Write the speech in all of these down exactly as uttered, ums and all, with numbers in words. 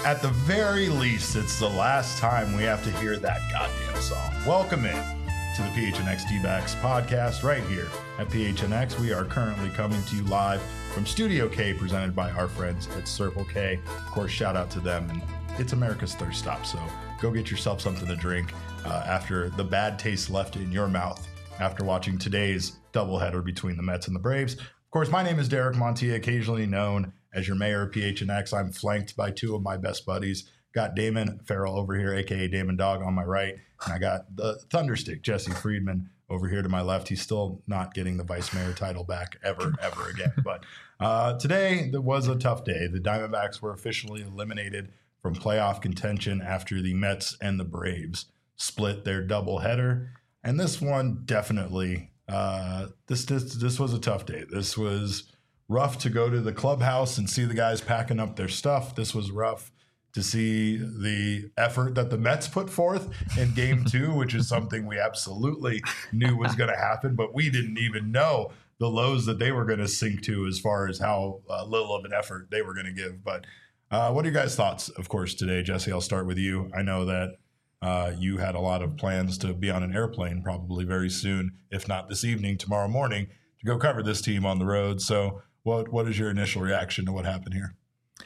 At the very least, it's the last time we have to hear that goddamn song. Welcome in to the P H N X D-backs podcast right here at P H N X. We are currently coming to you live from Studio K, presented by our friends at Circle K. Of course, shout out to them, and it's America's thirst stop, so go get yourself something to drink uh, after the bad taste left in your mouth after watching today's doubleheader between the Mets and the Braves. Of course, my name is Derek Montilla, occasionally known as your mayor of P H N X. I'm flanked by two of my best buddies. Got Damon Farrell over here, a k a. Damon Dog, on my right. And I got the Thunderstick, Jesse Friedman, over here to my left. He's still not getting the vice mayor title back ever, ever again. But uh, today, there was a tough day. The Diamondbacks were officially eliminated from playoff contention after the Mets and the Braves split their doubleheader. And this one definitely, uh, this, this, this was a tough day. This was rough to go to the clubhouse and see the guys packing up their stuff. This was rough to see the effort that the Mets put forth in game two, which is something we absolutely knew was going to happen, but we didn't even know the lows that they were going to sink to as far as how uh, little of an effort they were going to give. But uh, what are your guys' thoughts, of course, today? Jesse, I'll start with you. I know that uh, you had a lot of plans to be on an airplane probably very soon, if not this evening, tomorrow morning, to go cover this team on the road. So what what is your initial reaction to what happened here?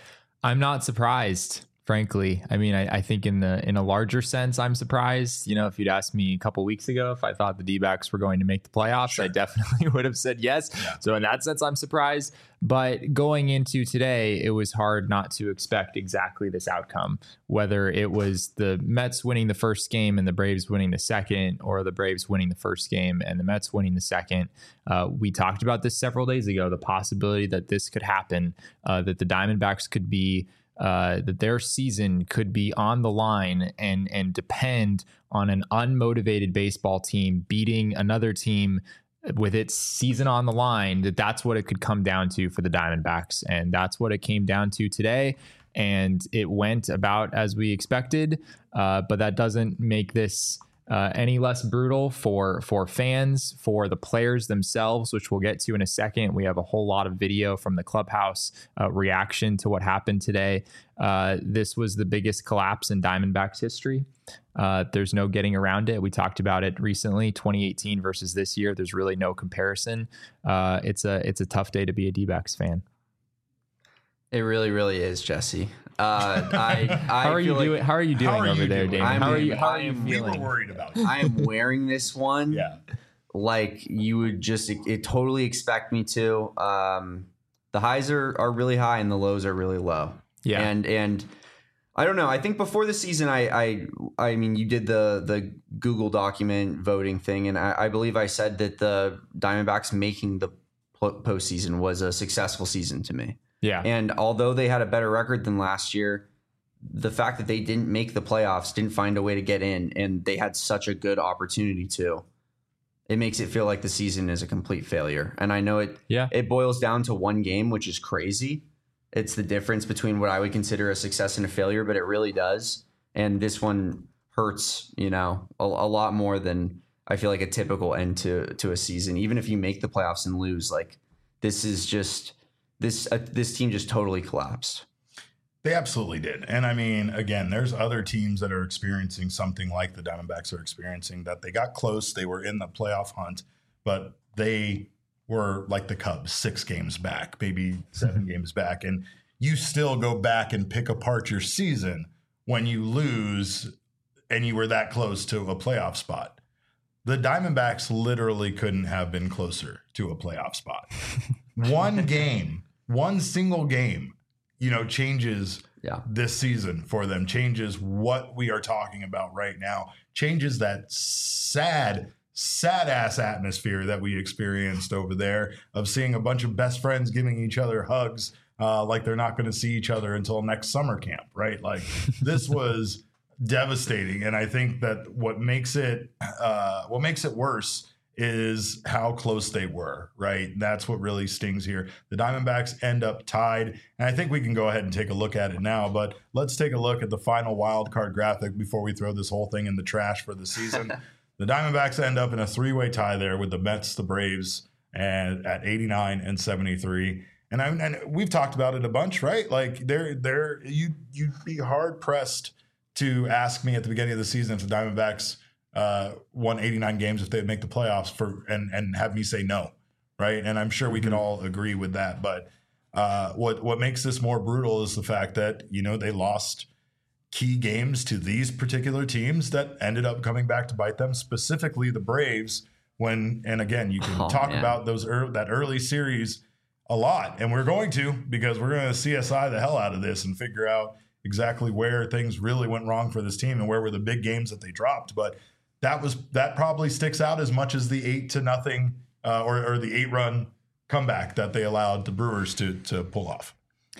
I'm not surprised, frankly. I mean, I, I think in the in a larger sense, I'm surprised. You know, if you'd asked me a couple weeks ago if I thought the D-backs were going to make the playoffs, sure, I definitely would have said yes. Yeah. So in that sense, I'm surprised. But going into today, it was hard not to expect exactly this outcome, whether it was the Mets winning the first game and the Braves winning the second, or the Braves winning the first game and the Mets winning the second. Uh, we talked about this several days ago, the possibility that this could happen, uh, that the Diamondbacks could be Uh, that their season could be on the line and and depend on an unmotivated baseball team beating another team with its season on the line, that that's what it could come down to for the Diamondbacks. And that's what it came down to today. And it went about as we expected, uh, but that doesn't make this Uh, any less brutal for for fans, for the players themselves, which we'll get to in a second. We have a whole lot of video from the clubhouse uh, reaction to what happened today. Uh, this was the biggest collapse in Diamondbacks history. Uh, there's no getting around it. We talked about it recently, twenty eighteen versus this year. There's really no comparison. Uh, it's a it's a tough day to be a D-backs fan. It really, really is, Jesse. Uh, I, I how are you like, doing? How are you doing are over you there, doing? Damon? How are you? How are you am, feeling? We were worried about you. I am wearing this one. Yeah. Like you would just it, it totally expect me to. Um, the highs are, are really high and the lows are really low. Yeah. And and I don't know. I think before the season, I I I mean, you did the the Google document voting thing, and I, I believe I said that the Diamondbacks making the postseason was a successful season to me. Yeah. And although they had a better record than last year, the fact that they didn't make the playoffs, didn't find a way to get in, and they had such a good opportunity to, it makes it feel like the season is a complete failure. And I know it, yeah. it boils down to one game, which is crazy. It's the difference between what I would consider a success and a failure, but it really does. And this one hurts, you know, a, a lot more than I feel like a typical end to, to a season. Even if you make the playoffs and lose, like this is just, This uh, this team just totally collapsed. They absolutely did. And I mean, again, there's other teams that are experiencing something like the Diamondbacks are experiencing, that they got close. They were in the playoff hunt, but they were like the Cubs, six games back, maybe seven games back. And you still go back and pick apart your season when you lose and you were that close to a playoff spot. The Diamondbacks literally couldn't have been closer to a playoff spot. One game. One single game, you know, changes yeah. this season for them, changes what we are talking about right now, changes that sad, sad ass atmosphere that we experienced over there of seeing a bunch of best friends giving each other hugs uh, like they're not going to see each other until next summer camp, right? Like this was devastating. And I think that what makes it, uh, what makes it worse is how close they were, right? That's what really stings here. The Diamondbacks end up tied, and I think we can go ahead and take a look at it now, but let's take a look at the final wild card graphic before we throw this whole thing in the trash for the season. The Diamondbacks end up in a three-way tie there with the Mets, the Braves, and at eighty-nine and seventy-three. And I and we've talked about it a bunch, right? Like there, there, you you'd be hard pressed to ask me at the beginning of the season if the Diamondbacks uh, won eighty-nine games if they'd make the playoffs for and and have me say no, right? And I'm sure we can all agree with that. But uh, what what makes this more brutal is the fact that you know they lost key games to these particular teams that ended up coming back to bite them, specifically the Braves. When and again, you can oh, talk man. about those early, that early series a lot, and we're going to because we're going to C S I the hell out of this and figure out exactly where things really went wrong for this team and where were the big games that they dropped. But that was that probably sticks out as much as the eight to nothing uh, or, or the eight run comeback that they allowed the Brewers to to pull off.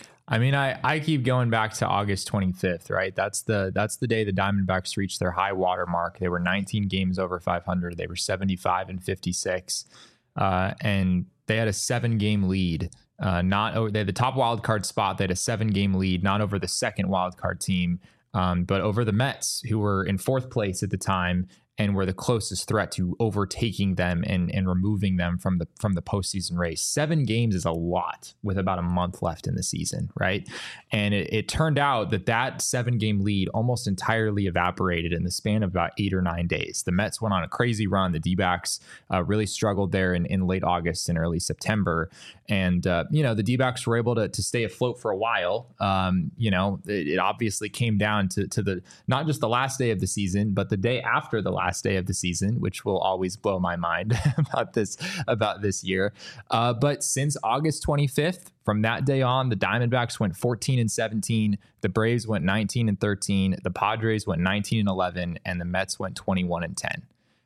I mean, I, I keep going back to August twenty-fifth, right? That's the that's the day the Diamondbacks reached their high water mark. They were nineteen games over five hundred. They were seventy-five and fifty-six, uh, and they had a seven game lead. Uh, not over, they had the top wild card spot. They had a seven game lead, not over the second wild card team, um, but over the Mets, who were in fourth place at the time and were the closest threat to overtaking them and, and removing them from the from the postseason race. Seven games is a lot with about a month left in the season, right? And it, it turned out that that seven game lead almost entirely evaporated in the span of about eight or nine days. The Mets went on a crazy run. The D-backs uh, really struggled there in, in late August and early September. And, uh, you know, the D-backs were able to, to stay afloat for a while. Um, you know, it, it obviously came down to, to the not just the last day of the season, but the day after the last day of the season, which will always blow my mind about this about this year. Uh, but since August twenty-fifth, from that day on, the Diamondbacks went fourteen and seventeen, the Braves went nineteen and thirteen, the Padres went nineteen and eleven, and the Mets went twenty-one and ten.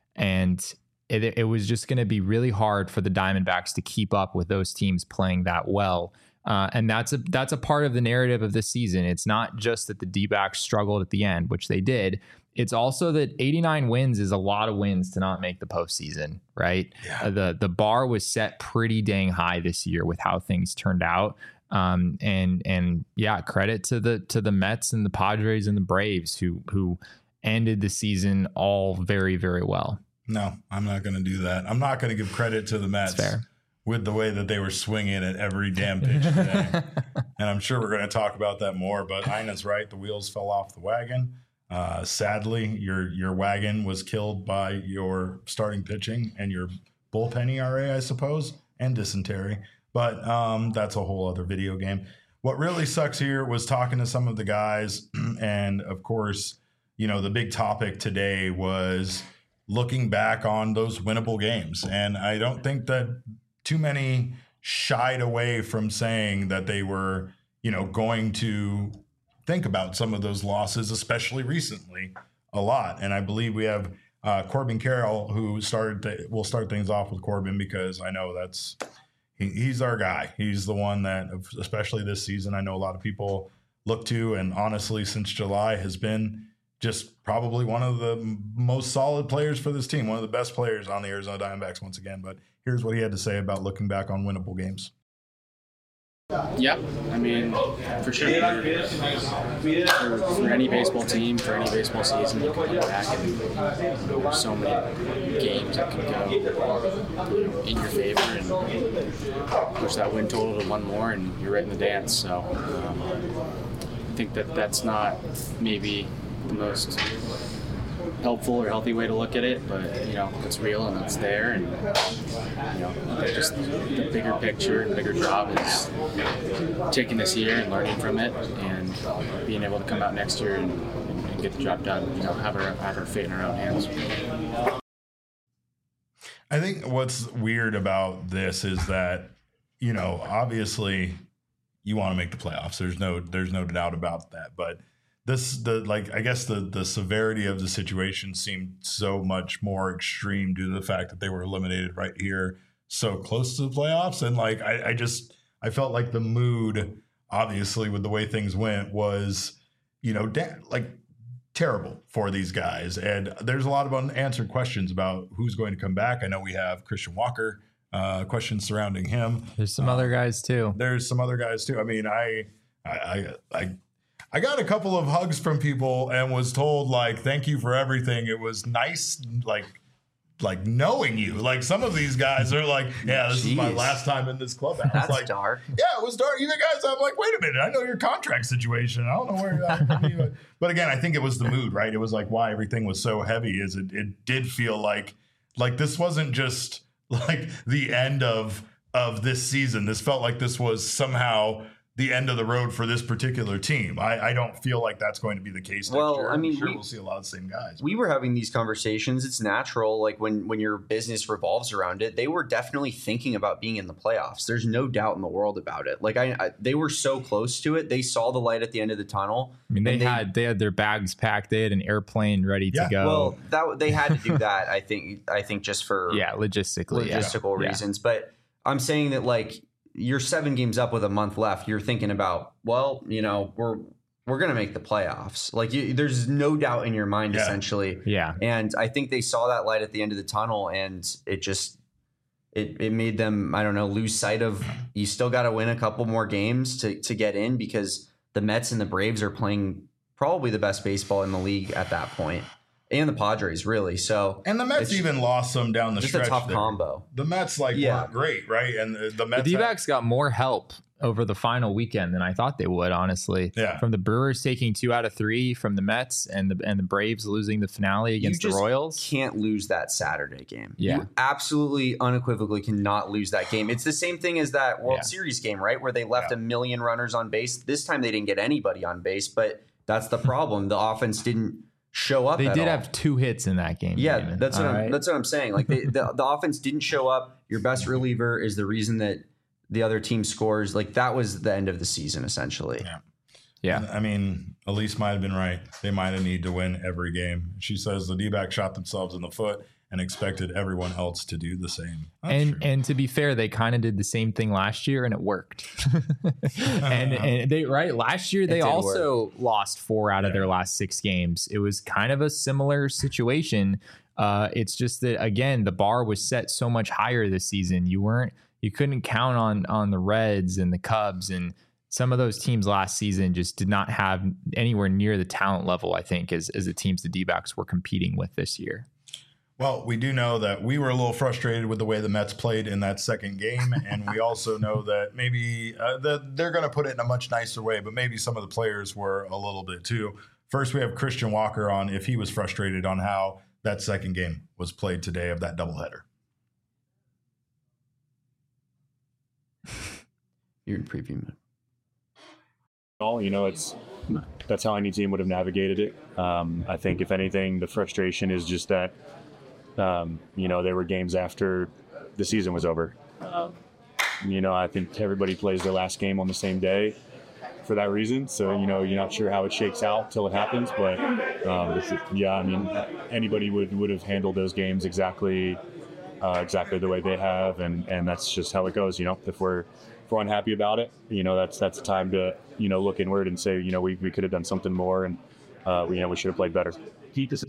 And it, it was just going to be really hard for the Diamondbacks to keep up with those teams playing that well. Uh, and that's a that's a part of the narrative of this season. It's not just that the D-backs struggled at the end, which they did. It's also that eighty-nine wins is a lot of wins to not make the postseason, right? Yeah. Uh, the the bar was set pretty dang high this year with how things turned out. Um, and and yeah, credit to the to the Mets and the Padres and the Braves who who ended the season all very, very well. No, I'm not going to do that. I'm not going to give credit to the Mets. That's fair. With the way that they were swinging at every damn pitch today. And I'm sure we're going to talk about that more, but Ina's right. The wheels fell off the wagon. Uh, sadly, your your wagon was killed by your starting pitching and your bullpen E R A, I suppose, and dysentery. But um, that's a whole other video game. What really sucks here was talking to some of the guys. And, of course, you know, the big topic today was looking back on those winnable games. And I don't think that too many shied away from saying that they were, you know, going to think about some of those losses, especially recently, a lot. And I believe we have uh, Corbin Carroll, who started. Th- we'll start things off with Corbin because I know that's he, he's our guy. He's the one that, especially this season, I know a lot of people look to, and honestly, since July, has been just probably one of the most solid players for this team, one of the best players on the Arizona Diamondbacks once again. But here's what he had to say about looking back on winnable games. Yeah, I mean, for sure. For, for any baseball team, for any baseball season, you can look back and there's so many games that can go, you know, in your favor and push that win total to one more, and you're right in the dance. So um, I think that that's not maybe the most helpful or healthy way to look at it, but you know, it's real and it's there, and you know, just the bigger picture and bigger job is taking this year and learning from it and being able to come out next year and, and get the job done, you know, have our, have our fate in our own hands. I think what's weird about this is that, you know, obviously you want to make the playoffs. There's no there's no doubt about that, but This the like I guess the the severity of the situation seemed so much more extreme due to the fact that they were eliminated right here so close to the playoffs. And like I, I just I felt like the mood, obviously, with the way things went, was, you know, da- like terrible for these guys. And there's a lot of unanswered questions about who's going to come back. I know we have Christian Walker, uh, questions surrounding him. There's some uh, other guys too. There's some other guys too. I mean, I I I. I I got a couple of hugs from people and was told, like, thank you for everything. It was nice, like, like knowing you. Like some of these guys are like, yeah, this Jeez. is my last time in this clubhouse. That's like, dark. Yeah, it was dark. You guys, I'm like, wait a minute, I know your contract situation. I don't know where you're at. But again, I think it was the mood, right? It was like why everything was so heavy is it, it did feel like like this wasn't just like the end of of this season. This felt like this was somehow the end of the road for this particular team. I, I don't feel like that's going to be the case next Well, year. I mean, I'm sure we- we'll see a lot of the same guys. We were having these conversations. It's natural. Like when, when your business revolves around it, they were definitely thinking about being in the playoffs. There's no doubt in the world about it. Like I, I they were so close to it. They saw the light at the end of the tunnel. I mean, they, and they- had they had their bags packed. They had an airplane ready Yeah. to go. Well, that they had to do that. I think. I think just for yeah, logistically. yeah. logistical Yeah. reasons. But I'm saying that like you're seven games up with a month left. You're thinking about, well, you know, we're we're gonna make the playoffs. Like you, there's no doubt in your mind, Yeah. essentially. Yeah. And I think they saw that light at the end of the tunnel, and it just it it made them, I don't know, lose sight of you still got to win a couple more games to to get in, because the Mets and the Braves are playing probably the best baseball in the league at that point, and the Padres really. So And the Mets It's even lost some down the just a stretch. tough there. combo. The Mets like Yeah. weren't great, right? And the, the Mets The had- D-backs got more help over the final weekend than I thought they would, honestly. Yeah. From the Brewers taking two out of three from the Mets, and the and the Braves losing the finale against the just Royals. Can't lose that Saturday game. Yeah. You absolutely unequivocally cannot lose that game. It's the same thing as that World Yeah. Series game, right? Where they left Yeah. a million runners on base. This time they didn't get anybody on base, but that's the problem. The offense didn't show up They at did all. have two hits in that game. Yeah, Damon. that's what All I'm, right? that's what I'm saying. Like they, the the offense didn't show up. Your best reliever is the reason that the other team scores. Like that was the end of the season essentially. Yeah. Yeah. I mean, Elise might have been right. They might have needed to win every game. She says the D-backs shot themselves in the foot and expected everyone else to do the same. That's and true. and to be fair, they kind of did the same thing last year, and it worked. and and they right last year they did also lost four out of Yeah. their last six games. It was kind of a similar situation. Uh, it's just that again, the bar was set so much higher this season. You weren't you couldn't count on on the Reds and the Cubs, and some of those teams last season just did not have anywhere near the talent level, I think, as as the teams the D-backs were competing with this year. Well, we do know that we were a little frustrated with the way the Mets played in that second game, and we also know that maybe uh, that they're going to put it in a much nicer way, but maybe some of the players were a little bit too. First, we have Christian Walker on if he was frustrated on how that second game was played today of that doubleheader. You're in preview mode. all. You know, it's that's how any team would have navigated it. Um, I think, if anything, the frustration is just that, um, you know, there were games after the season was over. You know, I think everybody plays their last game on the same day for that reason. So, you know, you're not sure how it shakes out till it happens. But, um, it's- yeah, I mean, anybody would, would have handled those games exactly uh, exactly the way they have. And, and that's just how it goes. You know, if we're, if we're unhappy about it, you know, that's that's the time to, you know, look inward and say, you know, we, we could have done something more, and, uh, we, you know, we should have played better. Heat this.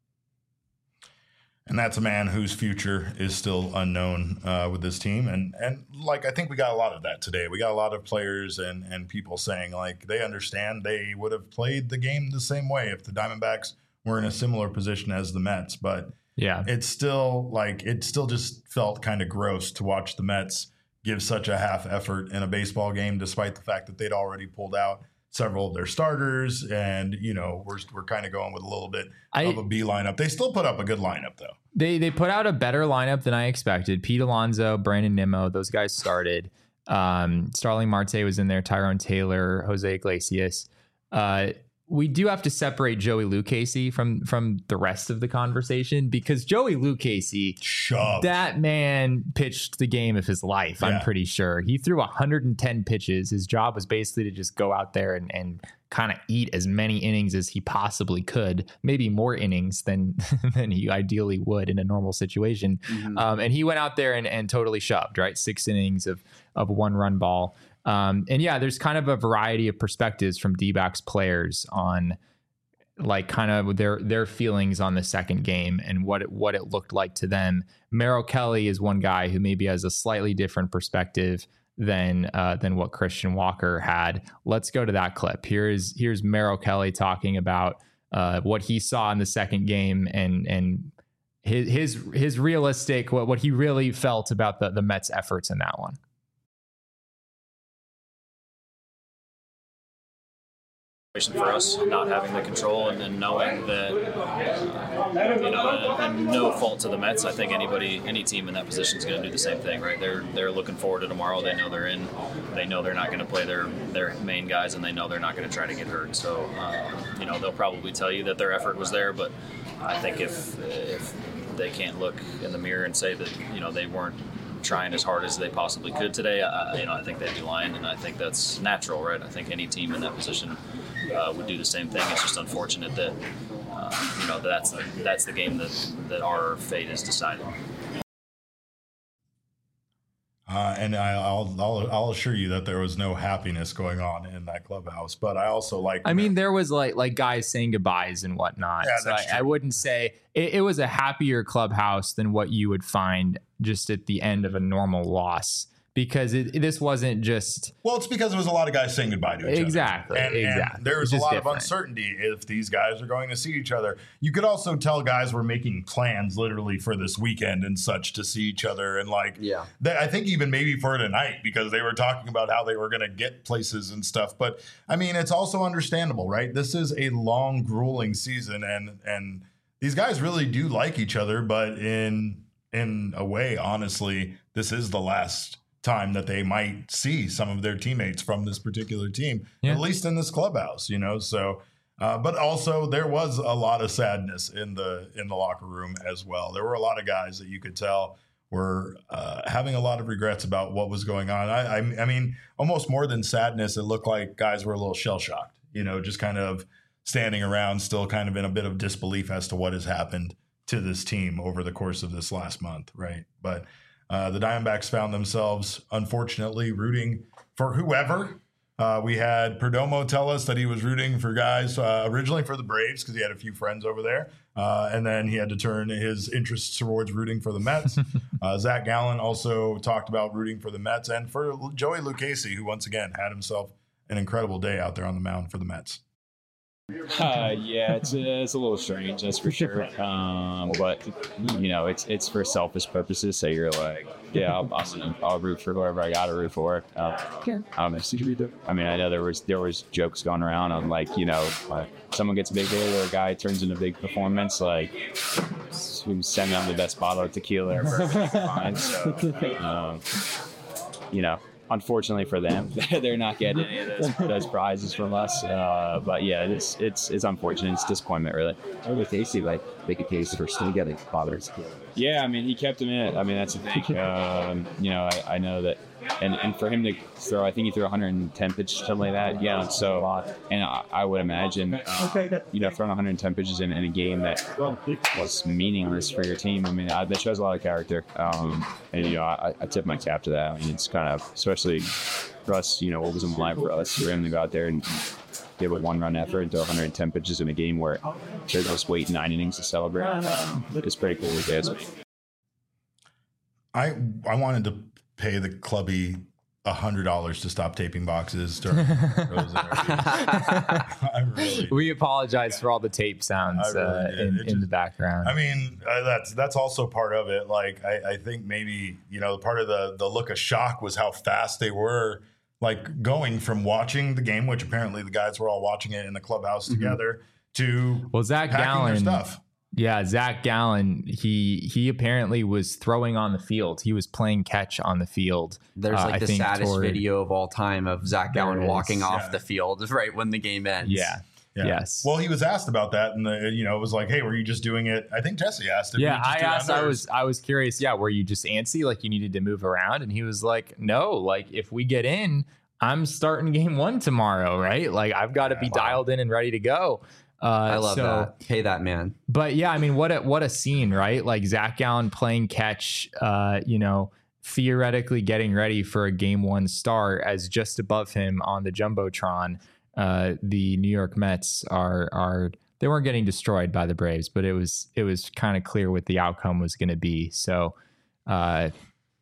And that's a man whose future is still unknown uh, with this team. And, and like, I think we got a lot of that today. We got a lot of players and, and people saying, like, they understand they would have played the game the same way if the Diamondbacks were in a similar position as the Mets. But Yeah. it's still, like, it still just felt kind of gross to watch the Mets give such a half effort in a baseball game, despite the fact that they'd already pulled out several of their starters, and you know we're we're kind of going with a little bit I- of a B lineup. They still put up a good lineup though. They they put out a better lineup than I expected. Pete Alonso, Brandon Nimmo, those guys started. Um, Starling Marte was in there, Tyrone Taylor, Jose Iglesias. Uh, we do have to separate Joey Lucchesi from from the rest of the conversation, because Joey Lucchesi, Shove. that man pitched the game of his life. Yeah. I'm pretty sure he threw one hundred ten pitches. His job was basically to just go out there and, and kind of eat as many innings as he possibly could, maybe more innings than than he ideally would in a normal situation. Um, and he went out there and, and totally shoved, right? Six innings of of one run ball. Um, and yeah, there's kind of a variety of perspectives from D-backs players on like kind of their their feelings on the second game and what it, what it looked like to them. Merrill Kelly is one guy who maybe has a slightly different perspective than uh, than what Christian Walker had. Let's go to that clip. Here's here's Merrill Kelly talking about uh, what he saw in the second game and and his his his realistic what what he really felt about the the Mets' efforts in that one. For us, not having the control and, and knowing that, uh, you know, and, and no fault to the Mets. I think anybody, any team in that position is going to do the same thing, right? They're they're looking forward to tomorrow. They know they're in. They know they're not going to play their their main guys, and they know they're not going to try to get hurt. So, uh, you know, they'll probably tell you that their effort was there, but I think if if they can't look in the mirror and say that, you know, they weren't trying as hard as they possibly could today, I, you know, I think they'd be lying, and I think that's natural, right? I think any team in that position uh, would do the same thing. It's just unfortunate that, uh, you know, that's the, that's the game that, that our fate is decided. Uh, and I, I'll, I'll I'll assure you that there was no happiness going on in that clubhouse. But I also like. I mean, there was like like guys saying goodbyes and whatnot. Yeah, so that's I, I wouldn't say it, it was a happier clubhouse than what you would find just at the end of a normal loss, because it, this wasn't just. Well, it's because there was a lot of guys saying goodbye to each exactly, other. And, exactly. And there was It's a lot different. of uncertainty if these guys are going to see each other. You could also tell guys were making plans literally for this weekend and such to see each other. And like, Yeah. they, I think even maybe for tonight, because they were talking about how they were going to get places and stuff. But I mean, it's also understandable, right? This is a long, grueling season, and and these guys really do like each other. But in in a way, honestly, this is the last time that they might see some of their teammates from this particular team, Yeah. at least in this clubhouse, you know. So, uh, but also there was a lot of sadness in the in the locker room as well. There were a lot of guys that you could tell were uh, having a lot of regrets about what was going on. I, I, I mean, almost more than sadness, it looked like guys were a little shell shocked, you know, just kind of standing around, still kind of in a bit of disbelief as to what has happened to this team over the course of this last month, right? But uh, the Diamondbacks found themselves, unfortunately, rooting for whoever. Uh, we had Perdomo tell us that he was rooting for guys uh, originally for the Braves because he had a few friends over there. Uh, and then he had to turn his interests towards rooting for the Mets. uh, Zach Gallen also talked about rooting for the Mets and for Joey Lucchesi, who once again had himself an incredible day out there on the mound for the Mets. Uh, yeah, it's a, it's a little strange, that's for sure. Um, but you know, it's it's for selfish purposes. So you're like, yeah, I'll, I'll, I'll root for whoever I got to root for. Um, I don't know. I mean, I know there was there was jokes going around on like, you know, uh, someone gets a big hit or a guy turns in a big performance, like we send them the best bottle of tequila ever. Fine. So, um, you know. Unfortunately for them, they're not getting any of those, those prizes from us. Uh, but yeah, it's it's it's unfortunate. It's disappointment, really. Or with Casey, like make a case for still getting bothers. Yeah, I mean, he kept him in it. I mean, that's the thing. Um, you know, I, I know that, and, and for him to throw, I think he threw one hundred ten pitches, something like that. Yeah, so and I, I would imagine, uh, you know, throwing one hundred ten pitches in, in a game that was meaningless for your team. I mean, I, that shows a lot of character. Um, and you know, I, I tip my cap to that. I mean, it's kind of, especially for us, you know, what was in line for us for him to go out there and give a one-run effort and throw one hundred ten pitches in a game where they're just waiting nine innings to celebrate. Um, it's pretty cool. It is. I I wanted to pay the clubby a hundred dollars to stop taping boxes during those interviews. I really, We apologize for all the tape sounds I really uh, did. in, It in just- the background. I mean, uh, that's that's also part of it. Like, I, I think maybe, you know, part of the the look of shock was how fast they were, like going from watching the game, which apparently the guys were all watching it in the clubhouse together, to well, Zach packing their Gallen, stuff. yeah, Zach Gallen, he he apparently was throwing on the field. He was playing catch on the field. There's uh, like I the think saddest toward- video of all time of Zach There Gallen is, walking off yeah. the field right when the game ends. Yeah. Yeah. Yes. Well, he was asked about that, and the, you know, it was like, "Hey, were you just doing it?" I think Jesse asked. If Yeah, you just I do it asked. on I theirs. was. I was curious. Yeah, were you just antsy, like you needed to move around? And he was like, "No, like if we get in, I'm starting game one tomorrow, right? Like I've got to be Wow. dialed in and ready to go." Uh, I love so, that. Pay that man. But yeah, I mean, what a what a scene, right? Like Zach Gallen playing catch, uh, you know, theoretically getting ready for a game one start, as just above him on the jumbotron, uh, the New York Mets are are they weren't getting destroyed by the Braves, but it was it was kind of clear what the outcome was going to be. So, uh,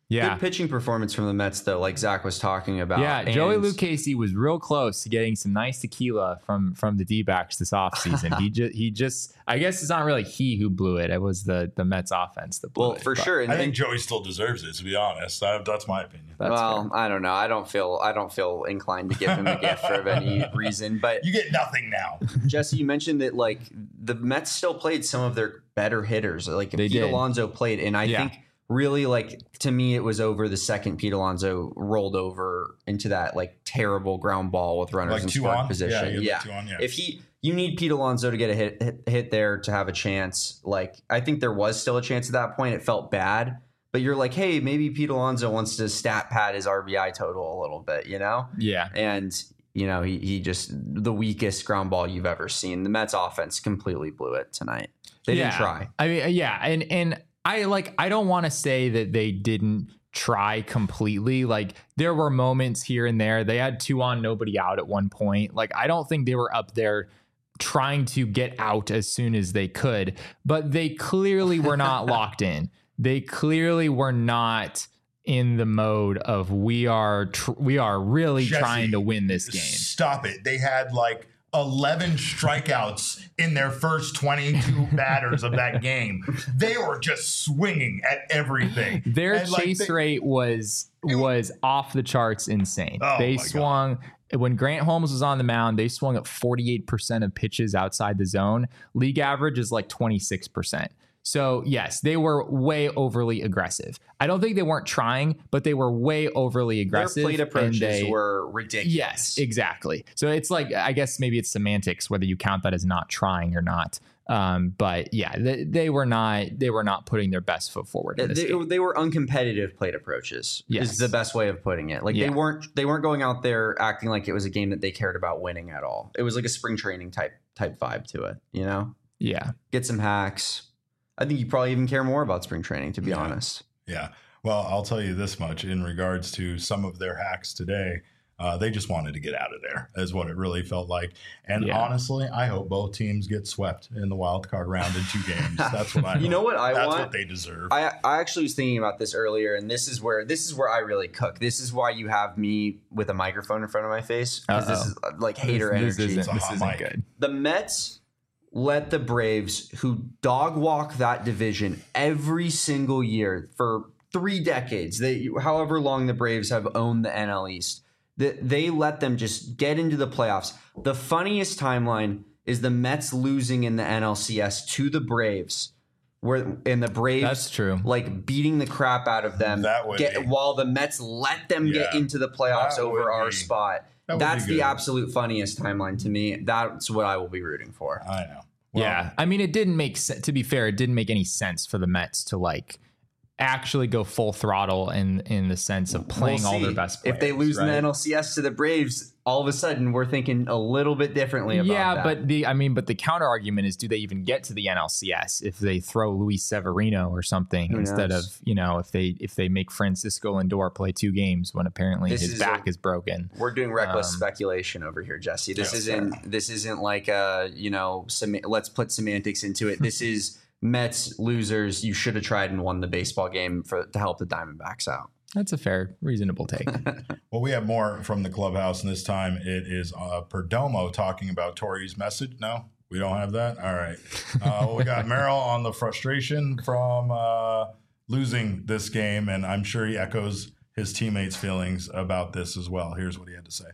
Yeah. Good pitching performance from the Mets, though, like Zach was talking about. Yeah, Joey And- Lucchesi was real close to getting some nice tequila from from the D-backs this offseason. he just he just I guess it's not really he who blew it. It was the the Mets offense that blew Well, it. for but sure. And I then- think Joey still deserves it, to be honest. I, that's my opinion. That's well, fair. I don't know. I don't feel I don't feel inclined to give him a gift for any reason. But You get nothing now. Jesse, you mentioned that like the Mets still played some of their better hitters. Like They Pete did. Alonso played, and I Yeah. think really like to me it was over the second Pete Alonso rolled over into that like terrible ground ball with runners Like in two scoring on? position. Yeah, you Yeah, had two on, yeah. if he you need Pete Alonso to get a hit, hit hit there to have a chance. Like I think there was still a chance at that point. It felt bad. But you're like, hey, maybe Pete Alonso wants to stat pad his R B I total a little bit, you know? Yeah. And, you know, he, he just, the weakest ground ball you've ever seen. The Mets offense completely blew it tonight. They yeah. didn't try. I mean, yeah, and and I like I don't want to say that they didn't try completely. Like there were moments here and there. They had two on, nobody out at one point. Like I don't think they were up there trying to get out as soon as they could, but they clearly were not locked in. They clearly were not in the mode of we are tr- we are really Jesse, trying to win this game. Stop it. They had like eleven strikeouts in their first twenty-two batters of that game. They were just swinging at everything. Their And, like, chase they- rate was was off the charts insane. Oh, they my swung when Grant Holmes was on the mound, they swung at forty-eight percent of pitches outside the zone. League average is like twenty-six percent. So yes, they were way overly aggressive. I don't think they weren't trying, but they were way overly aggressive. Their plate and approaches they- were ridiculous. Yes, exactly. So it's like, I guess maybe it's semantics, whether you count that as not trying or not. Um, but yeah, they, they were not, they were not putting their best foot forward. In this They, game. they were uncompetitive plate approaches. Yes. Is the best way of putting it. Like Yeah. they weren't they weren't going out there acting like it was a game that they cared about winning at all. It was like a spring training type type vibe to it. You know, Yeah. get some hacks. I think you probably even care more about spring training, to be Yeah. honest. Yeah. Well, I'll tell you this much in regards to some of their hacks today. Uh, they just wanted to get out of there, is what it really felt like. And Yeah. honestly, I hope both teams get swept in the wild card round in two games. That's what I. You know hope. what I That's want? what they deserve. I, I actually was thinking about this earlier, and this is where this is where I really cook. This is why you have me with a microphone in front of my face, because this Uh-oh. is uh, like hater This energy. isn't, a this hot isn't mic. good. The Mets let the Braves, who dog walk that division every single year for three decades, they however long the Braves have owned the N L East, that they let them just get into the playoffs. The funniest timeline is the Mets losing in the N L C S to the Braves, where and the Braves That's true. like beating the crap out of them. That would get, be- while the Mets let them get Yeah. into the playoffs That over would our be- spot. that would be That's the good. absolute funniest timeline to me. That's what I will be rooting for. I know. Well, Yeah. I mean, it didn't make sense. To be fair, it didn't make any sense for the Mets to like actually go full throttle in in the sense of playing We'll all their see. best players. If they lose in the right? N L C S to the Braves, all of a sudden we're thinking a little bit differently about yeah, that. but the I mean, but the counter argument is, do they even get to the N L C S if they throw Luis Severino or something Who instead knows? of, you know, if they if they make Francisco Lindor play two games when apparently This his is back a- is broken. we're doing reckless Um, speculation over here, Jesse. This Yeah, isn't this isn't like uh you know sem- let's put semantics into it. This is Mets losers. You should have tried and won the baseball game for to help the Diamondbacks out. That's a fair, reasonable take. Well, we have more from the clubhouse, and this time it is uh, Perdomo talking about Tori's message. No, we don't have that. All right. Uh, well, we got Merrill on the frustration from uh, losing this game, and I'm sure he echoes his teammates' feelings about this as well. Here's what he had to say.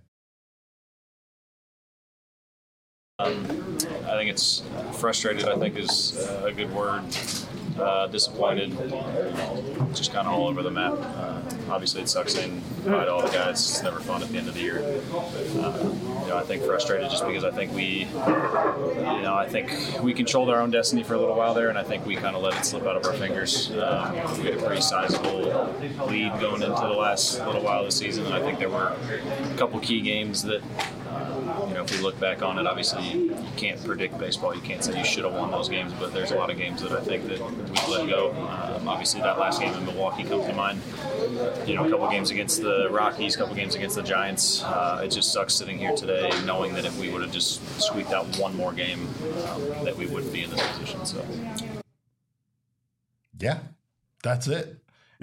Um, I think it's frustrated, I think is uh, a good word. Uh, disappointed, just kind of all over the map. Uh, obviously, it sucks saying bye to all the guys. It's never fun at the end of the year. Uh, you know, I think frustrated just because I think we, you know, I think we controlled our own destiny for a little while there, and I think we kind of let it slip out of our fingers. Um, we had a pretty sizable lead going into the last little while of the season, and I think there were a couple key games that. You know, if we look back on it, obviously you, you can't predict baseball. You can't say you should have won those games, but there's a lot of games that I think that we let go. Um, obviously, that last game in Milwaukee comes to mind. You know, a couple games against the Rockies, a couple games against the Giants. Uh, it just sucks sitting here today knowing that if we would have just squeaked out one more game, um, that we wouldn't be in this position. So, Yeah, that's it.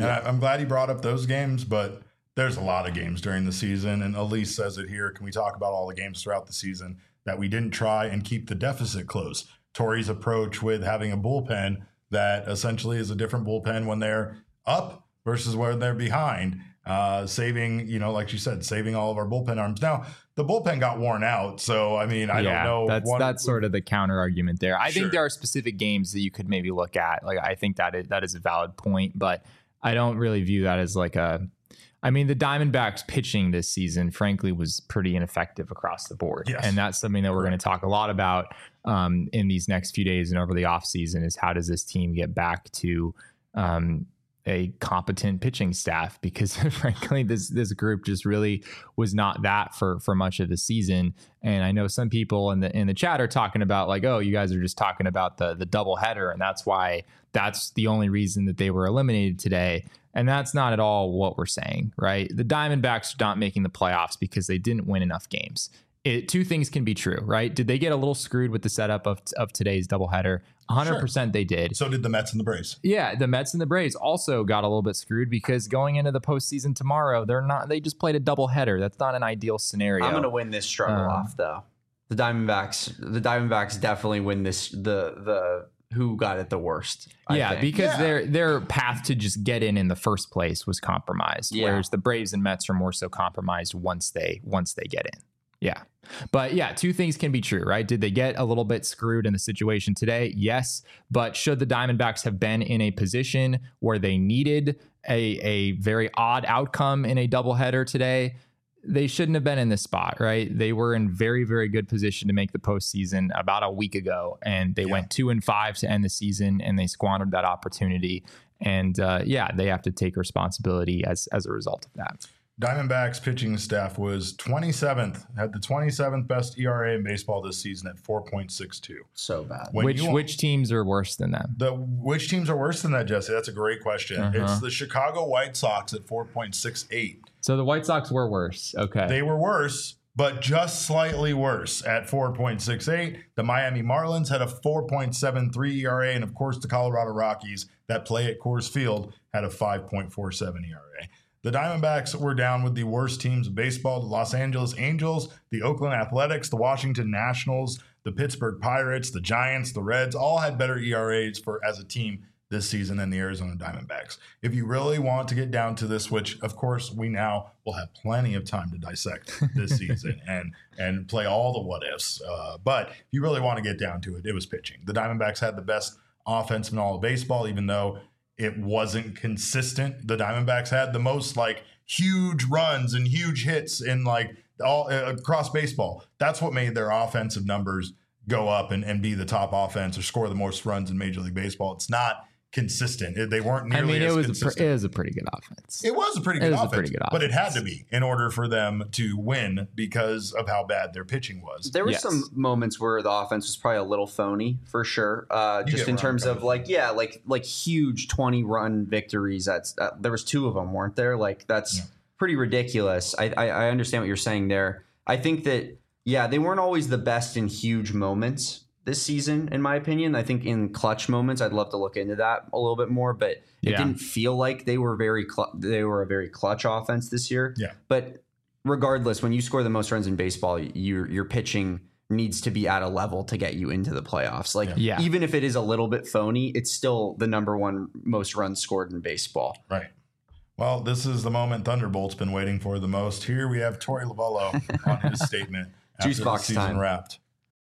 And I, I'm glad he brought up those games, but there's a lot of games during the season. And Elise says it here. Can we talk about all the games throughout the season that we didn't try and keep the deficit close? Torrey's approach with having a bullpen that essentially is a different bullpen when they're up versus when they're behind. Uh, saving, you know, like you said, saving all of our bullpen arms. Now, the bullpen got worn out. So, I mean, I yeah, don't know. That's one, that's sort of the counter argument there. I Sure. think there are specific games that you could maybe look at. Like, I think that is, that is a valid point, but I don't really view that as like a, I mean, the Diamondbacks pitching this season, frankly, was pretty ineffective across the board. Yes. And that's something that we're going to talk a lot about um, in these next few days and over the offseason is how does this team get back to um, a competent pitching staff, because frankly, this this group just really was not that for for much of the season. And I know some people in the in the chat are talking about like, oh, you guys are just talking about the the doubleheader, and that's why that's the only reason that they were eliminated today. And that's not at all what we're saying, right? The Diamondbacks are not making the playoffs because they didn't win enough games. It, two things can be true, right? Did they get a little screwed with the setup of, of today's doubleheader? one hundred percent Sure. they did. So did the Mets and the Braves. Yeah, the Mets and the Braves also got a little bit screwed because going into the postseason tomorrow, they're not. They just played a doubleheader. That's not an ideal scenario. I'm going to win this struggle Um, off, though. The Diamondbacks, the Diamondbacks definitely win this. The the who got it the worst? I yeah, think. because Yeah. their their path to just get in in the first place was compromised, Yeah. whereas the Braves and Mets are more so compromised once they once they get in. Yeah. But yeah, two things can be true, right? Did they get a little bit screwed in the situation today? Yes. But should the Diamondbacks have been in a position where they needed a, a very odd outcome in a doubleheader today? They shouldn't have been in this spot, right? They were in very, very good position to make the postseason about a week ago, and they Yeah. went two and five to end the season, and they squandered that opportunity. And uh, yeah, they have to take responsibility as as a result of that. Diamondbacks pitching staff was twenty-seventh, had the twenty-seventh best E R A in baseball this season at four point six two. so bad. When which you- which teams are worse than them? The which teams are worse than that, Jesse? That's a great question. Uh-huh. It's the Chicago White Sox at four point six eight. So the White Sox were worse. Okay. They were worse, but just slightly worse at four point six eight. The Miami Marlins had a four point seven three E R A, and of course, the Colorado Rockies that play at Coors Field had a five point four seven E R A. The Diamondbacks were down with the worst teams of baseball: the Los Angeles Angels, the Oakland Athletics, the Washington Nationals, the Pittsburgh Pirates, the Giants, the Reds. All had better E R As for as a team this season than the Arizona Diamondbacks. If you really want to get down to this, which of course we now will have plenty of time to dissect this season and and play all the what ifs. Uh, but if you really want to get down to it, it was pitching. The Diamondbacks had the best offense in all of baseball, even though it wasn't consistent. The Diamondbacks had the most like huge runs and huge hits in like all uh, across baseball. That's what made their offensive numbers go up and, and be the top offense or score the most runs in Major League Baseball. It's not consistent. It- they weren't I nearly mean, it as was a consistent. pre- it was a pretty good offense. It was a pretty It good was a offense, pretty good but it had offense. to be in order for them to win because of how bad their pitching was. There were Yes. some moments where the offense was probably a little phony for sure. Uh, You just get in where I'm terms coming of from. like, yeah, like like huge twenty run victories. That's uh, there was two of them, weren't there? Like that's Yeah. pretty ridiculous. I, I I understand what you're saying there. I think that yeah, they weren't always the best in huge moments this season, in my opinion. I think in clutch moments, I'd love to look into that a little bit more, but it Yeah. didn't feel like they were very cl- they were a very clutch offense this year. Yeah. But regardless, when you score the most runs in baseball, your your pitching needs to be at a level to get you into the playoffs. Like Yeah. even if it is a little bit phony, it's still the number one most runs scored in baseball. Right. Well, this is the moment Thunderbolt's been waiting for the most. Here we have Torey Lovello on his statement after Juice the box season time. wrapped.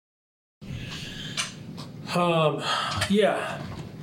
Um, yeah.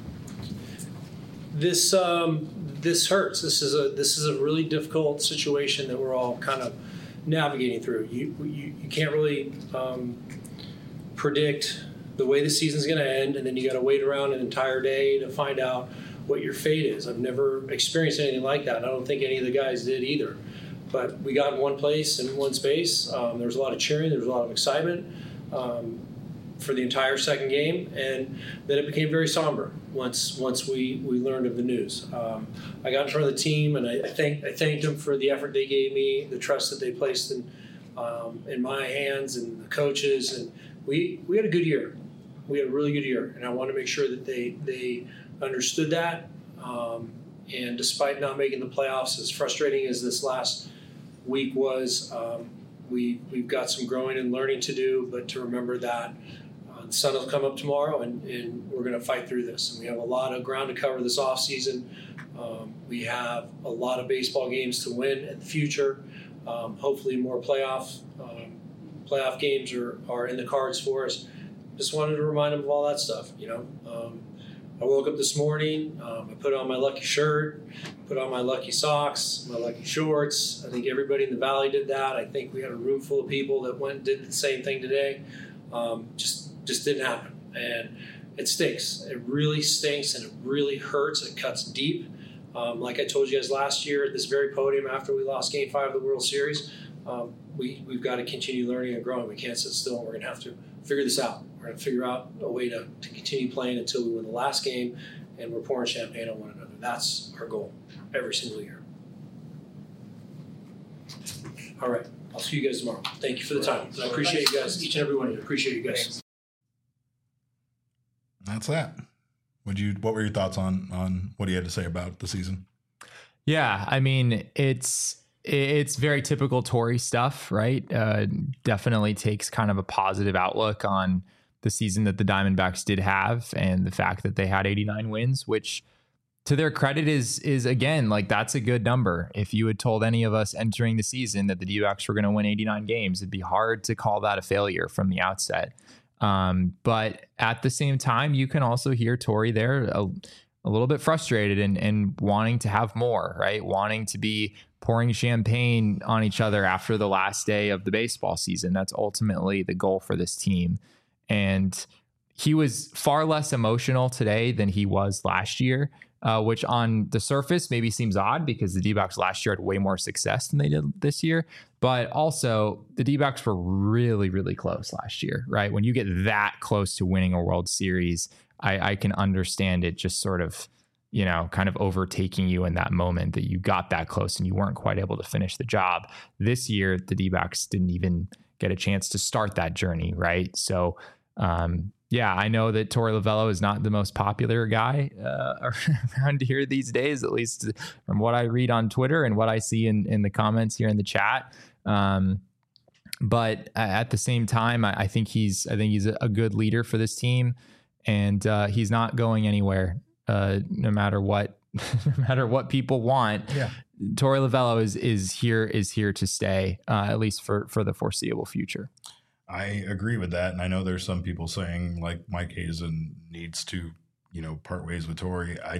This um, this hurts. This is a this is a really difficult situation that we're all kind of navigating through. You you, you can't really um, predict the way the season's going to end, and then you got to wait around an entire day to find out what your fate is. I've never experienced anything like that. I don't think any of the guys did either. But we got in one place in one space. Um, there was a lot of cheering. There was a lot of excitement. Um, for the entire second game, and then it became very somber once once we, we learned of the news. Um, I got in front of the team, and I, I thank I thanked them for the effort they gave me, the trust that they placed in um, in my hands and the coaches, and we we had a good year. We had a really good year, and I want to make sure that they they understood that. Um, and despite not making the playoffs, as frustrating as this last week was, um, we, we've got some growing and learning to do, but to remember that uh, the sun will come up tomorrow, and, and we're going to fight through this. And we have a lot of ground to cover this offseason. Um, we have a lot of baseball games to win in the future. Um, hopefully more playoff um, playoff games are, are in the cards for us. Just wanted to remind them of all that stuff, you know. Um, I woke up this morning, um, I put on my lucky shirt, put on my lucky socks, my lucky shorts. I think everybody in the Valley did that. I think we had a room full of people that went and did the same thing today. Um, just just didn't happen. And it stinks. It really stinks, and it really hurts. It cuts deep. Um, like I told you guys last year at this very podium after we lost Game five of the World Series, um, we, we've got to continue learning and growing. We can't sit still. We're going to have to figure this out. We're going to figure out a way to, to continue playing until we win the last game and we're pouring champagne on one another. That's our goal every single year. All right. I'll see you guys tomorrow. Thank you for the time. I appreciate you guys, each and every one of you. Appreciate you guys. That's that. Would you? What were your thoughts on on what he had to say about the season? Yeah, I mean, it's it's very typical Torey stuff, right? Uh, definitely takes kind of a positive outlook on the season that the Diamondbacks did have, and the fact that they had eighty-nine wins, which to their credit is is again, like, that's a good number. If you had told any of us entering the season that the D-backs were going to win eighty-nine games, it'd be hard to call that a failure from the outset. Um, but at the same time, you can also hear Torey there a, a little bit frustrated and, and wanting to have more, right? Wanting to be pouring champagne on each other after the last day of the baseball season. That's ultimately the goal for this team. And he was far less emotional today than he was last year, uh, which on the surface maybe seems odd because the D-backs last year had way more success than they did this year. But also the D-backs were really, really close last year, right? When you get that close to winning a World Series, I, I can understand it just sort of, you know, kind of overtaking you in that moment that you got that close and you weren't quite able to finish the job. This year, the D-backs didn't even get a chance to start that journey, right? So, um, yeah, I know that Torey Lovullo is not the most popular guy uh, around here these days, at least from what I read on Twitter and what I see in, in the comments here in the chat. Um, but at the same time, I, I think he's I think he's a, a good leader for this team, and uh, he's not going anywhere, uh, no matter what, no matter what people want. Yeah. Torey Lovullo is is here is here to stay, uh, at least for for the foreseeable future. I agree with that, and I know there's some people saying like Mike Hazen needs to, you know, part ways with Torey. I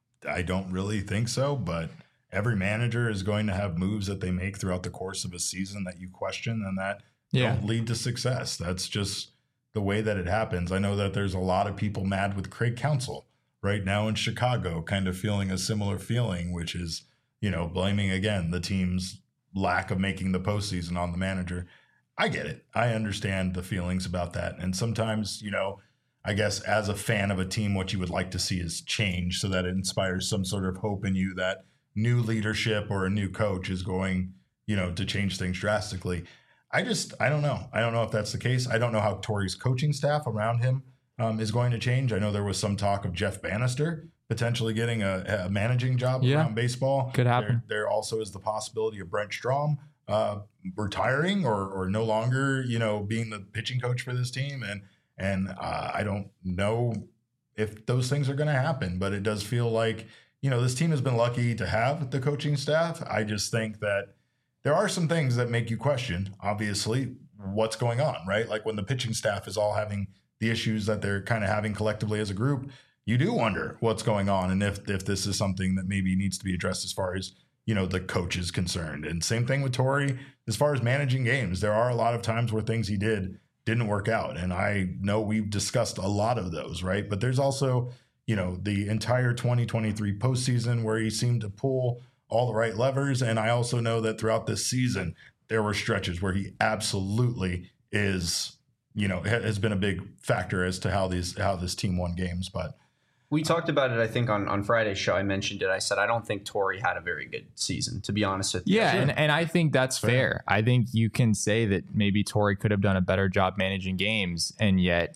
I don't really think so, but every manager is going to have moves that they make throughout the course of a season that you question and that yeah. don't lead to success. That's just the way that it happens. I know that there's a lot of people mad with Craig Counsell right now in Chicago, kind of feeling a similar feeling, which is, you know, blaming again the team's lack of making the postseason on the manager. I get it. I understand the feelings about that. And sometimes, you know, I guess as a fan of a team, what you would like to see is change so that it inspires some sort of hope in you that new leadership or a new coach is going, you know, to change things drastically. I just, I don't know. I don't know if that's the case. I don't know how Torey's coaching staff around him um, is going to change. I know there was some talk of Jeff Bannister potentially getting a, a managing job yeah. around baseball. Could happen. There, there also is the possibility of Brent Strom uh, retiring or or no longer, you know, being the pitching coach for this team. And, and uh, I don't know if those things are going to happen, but it does feel like, you know, this team has been lucky to have the coaching staff. I just think that there are some things that make you question, obviously, what's going on, right? Like when the pitching staff is all having the issues that they're kind of having collectively as a group, you do wonder what's going on and if if this is something that maybe needs to be addressed as far as, you know, the coach is concerned. And same thing with Torey, as far as managing games. There are a lot of times where things he did didn't work out. And I know we've discussed a lot of those, right? But there's also, you know, the entire twenty twenty-three postseason where he seemed to pull all the right levers. And I also know that throughout this season, there were stretches where he absolutely is, you know, has been a big factor as to how these, how this team won games. But we talked about it, I think, on, on Friday's show. I mentioned it. I said, I don't think Torey had a very good season, to be honest with you. Yeah, and, and I think that's fair. fair. I think you can say that maybe Torey could have done a better job managing games, and yet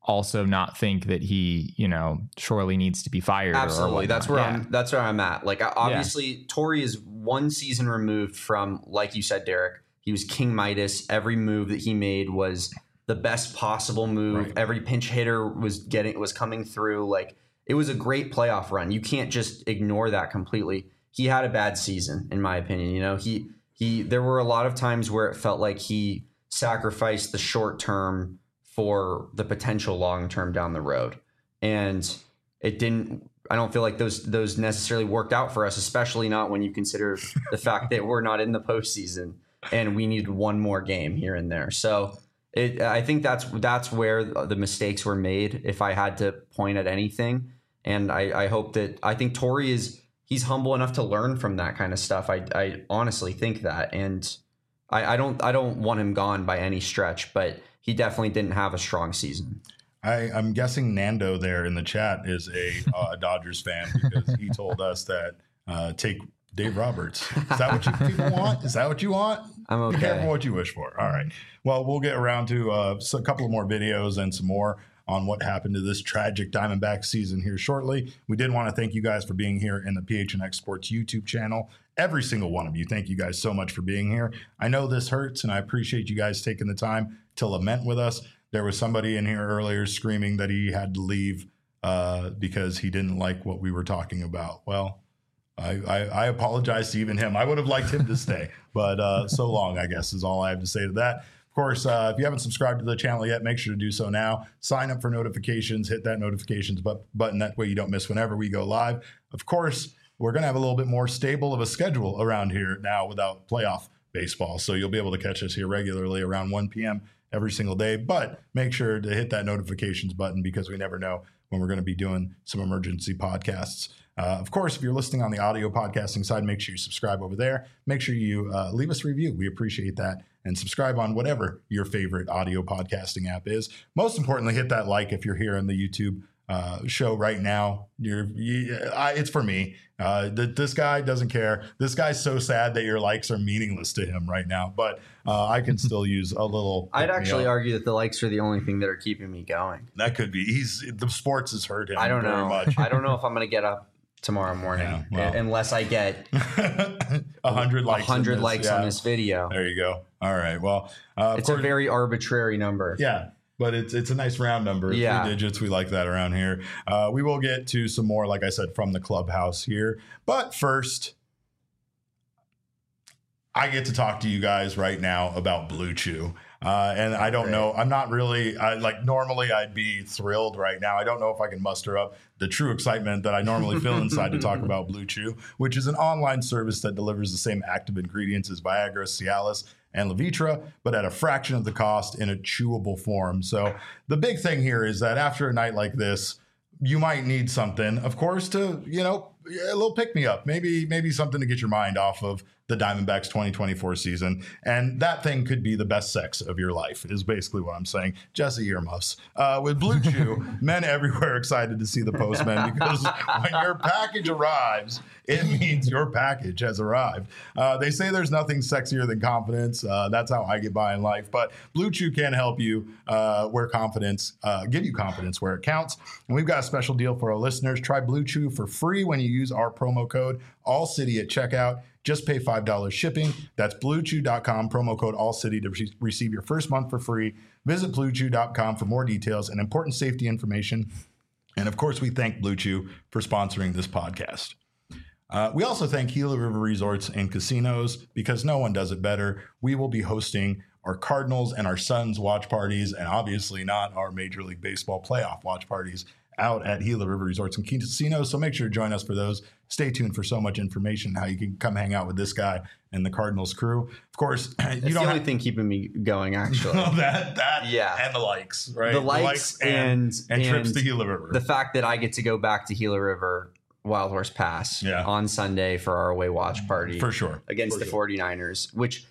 also not think that he, you know, surely needs to be fired. Absolutely. Or that's where yeah. I'm that's where I'm at. Like obviously yeah. Torrey is one season removed from, like you said, Derek, he was King Midas. Every move that he made was the best possible move. Right. Every pinch hitter was getting was coming through. Like it was a great playoff run. You can't just ignore that completely. He had a bad season, in my opinion. You know, he he there were a lot of times where it felt like he sacrificed the short term for the potential long term down the road. And it didn't I don't feel like those those necessarily worked out for us, especially not when you consider the fact that we're not in the postseason and we needed one more game here and there. So it, I think that's that's where the mistakes were made, if I had to point at anything. And I, I hope that I think Torrey is he's humble enough to learn from that kind of stuff. I, I honestly think that. And I, I don't I don't want him gone by any stretch, but he definitely didn't have a strong season. I, I'm guessing Nando there in the chat is a uh, Dodgers fan because he told us that uh, take Dave Roberts. Is that what you people want? Is that what you want? I'm okay. Be careful what you wish for. All right. Well, we'll get around to uh, a couple of more videos and some more on what happened to this tragic Diamondback season here shortly. We did want to thank you guys for being here in the P H N X Sports YouTube channel. Every single one of you. Thank you guys so much for being here. I know this hurts, and I appreciate you guys taking the time to lament with us. There was somebody in here earlier screaming that he had to leave uh, because he didn't like what we were talking about. Well, I, I, I apologize to even him. I would have liked him to stay, but uh, so long, I guess, is all I have to say to that. Of course, uh, if you haven't subscribed to the channel yet, make sure to do so now. Sign up for notifications, hit that notifications bu- button. That way you don't miss whenever we go live. Of course, we're going to have a little bit more stable of a schedule around here now without playoff baseball. So you'll be able to catch us here regularly around one p.m. every single day. But make sure to hit that notifications button because we never know when we're going to be doing some emergency podcasts. Uh, of course, if you're listening on the audio podcasting side, make sure you subscribe over there. Make sure you uh, leave us a review. We appreciate that. And subscribe on whatever your favorite audio podcasting app is. Most importantly, hit that like if you're here on the YouTube uh, show right now. You're, you, I, it's for me. Uh, th- this guy doesn't care. This guy's so sad that your likes are meaningless to him right now. But uh, I can still use a little. I'd actually argue that the likes are the only thing that are keeping me going. That could be. He's the sports has hurt him. I don't very know. Much. I don't know if I'm going to get up tomorrow morning Yeah, well. unless I get a hundred likes. A hundred this, likes yeah. on this video. There you go. All right. Well, uh, it's course, a very arbitrary number. Yeah. But it's it's a nice round number. Yeah. Three digits. We like that around here. Uh, we will get to some more, like I said, from the clubhouse here. But first, I get to talk to you guys right now about Blue Chew. Uh, and I don't know. I'm not really I, like normally I'd be thrilled right now. I don't know if I can muster up the true excitement that I normally feel inside to talk about Blue Chew, which is an online service that delivers the same active ingredients as Viagra, Cialis, and Levitra, but at a fraction of the cost in a chewable form. So the big thing here is that after a night like this, you might need something, of course, to, you know, a little pick me up, maybe, maybe something to get your mind off of the Diamondbacks twenty twenty-four season. And that thing could be the best sex of your life is basically what I'm saying. Jesse earmuffs. Uh, with Blue Chew, men everywhere excited to see the postman because when your package arrives, it means your package has arrived. Uh, they say there's nothing sexier than confidence. Uh, that's how I get by in life. But Blue Chew can help you uh, where confidence, uh, give you confidence where it counts. And we've got a special deal for our listeners. Try Blue Chew for free when you use our promo code ALLCITY at checkout. Just pay five dollars shipping. That's blue chew dot com, promo code ALLCITY to re- receive your first month for free. Visit blue chew dot com for more details and important safety information. And of course, we thank Blue Chew for sponsoring this podcast. Uh, we also thank Gila River Resorts and Casinos because no one does it better. We will be hosting our Cardinals and our Suns watch parties, and obviously not our Major League Baseball playoff watch parties out at Gila River Resorts and Casinos. So make sure to join us for those. Stay tuned for so much information how you can come hang out with this guy and the Cardinals crew. Of course, you it's don't the only have, thing keeping me going, actually. that that yeah, and the likes, right? The likes, the likes and, and, and trips and to Gila River. The fact that I get to go back to Gila River Wild Horse Pass yeah. on Sunday for our away watch party for sure against for the sure. 49ers, which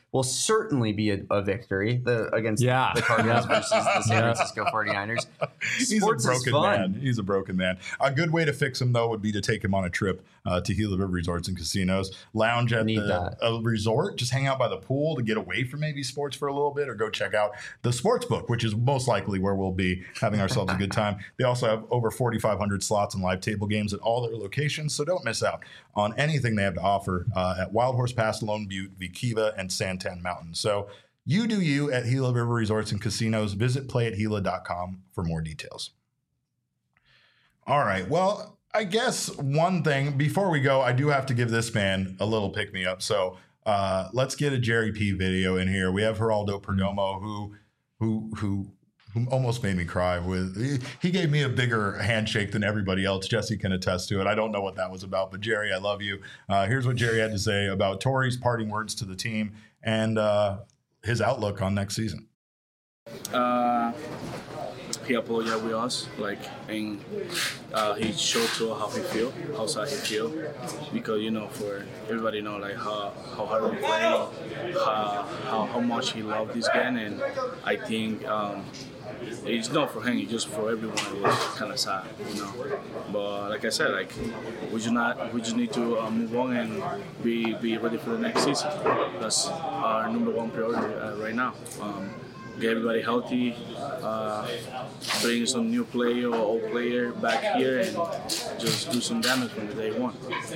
will certainly be a, a victory the, against yeah. the Cardinals yeah. versus the San Francisco forty-niners. He's Sports a is broken fun. man. He's a broken man. A good way to fix him, though, would be to take him on a trip uh, to Gila River Resorts and Casinos. Lounge at Need the a resort. Just hang out by the pool to get away from maybe sports for a little bit, or go check out the sports book, which is most likely where we'll be having ourselves a good time. They also have over forty-five hundred slots and live table games at all their locations, so don't miss out on anything they have to offer uh, at Wild Horse Pass, Lone Butte, Vikiva, and Santan Mountain. So you do you at Gila River Resorts and Casinos. Visit play at gila dot com for more details. All right. Well, I guess one thing before we go, I do have to give this man a little pick me up. So uh, let's get a Jerry P video in here. We have Geraldo Perdomo, who who who who almost made me cry. With he, he gave me a bigger handshake than everybody else. Jesse can attest to it. I don't know what that was about, but Jerry, I love you. Uh, here's what Jerry had to say about Torey's parting words to the team and uh, his outlook on next season. Uh, he apologized with us, like, and uh, he showed to us how he feel, how sad he feel, because you know, for everybody know like how how hard we play, how how, how much he loved this game, and I think um, it's not for him, it's just for everyone. It was kind of sad, you know. But like I said, like we just not we just need to uh, move on and be be ready for the next season. That's our number one priority uh, right now. Um, Get everybody healthy, uh, bring some new player or old player back here, and just do some damage from the day one.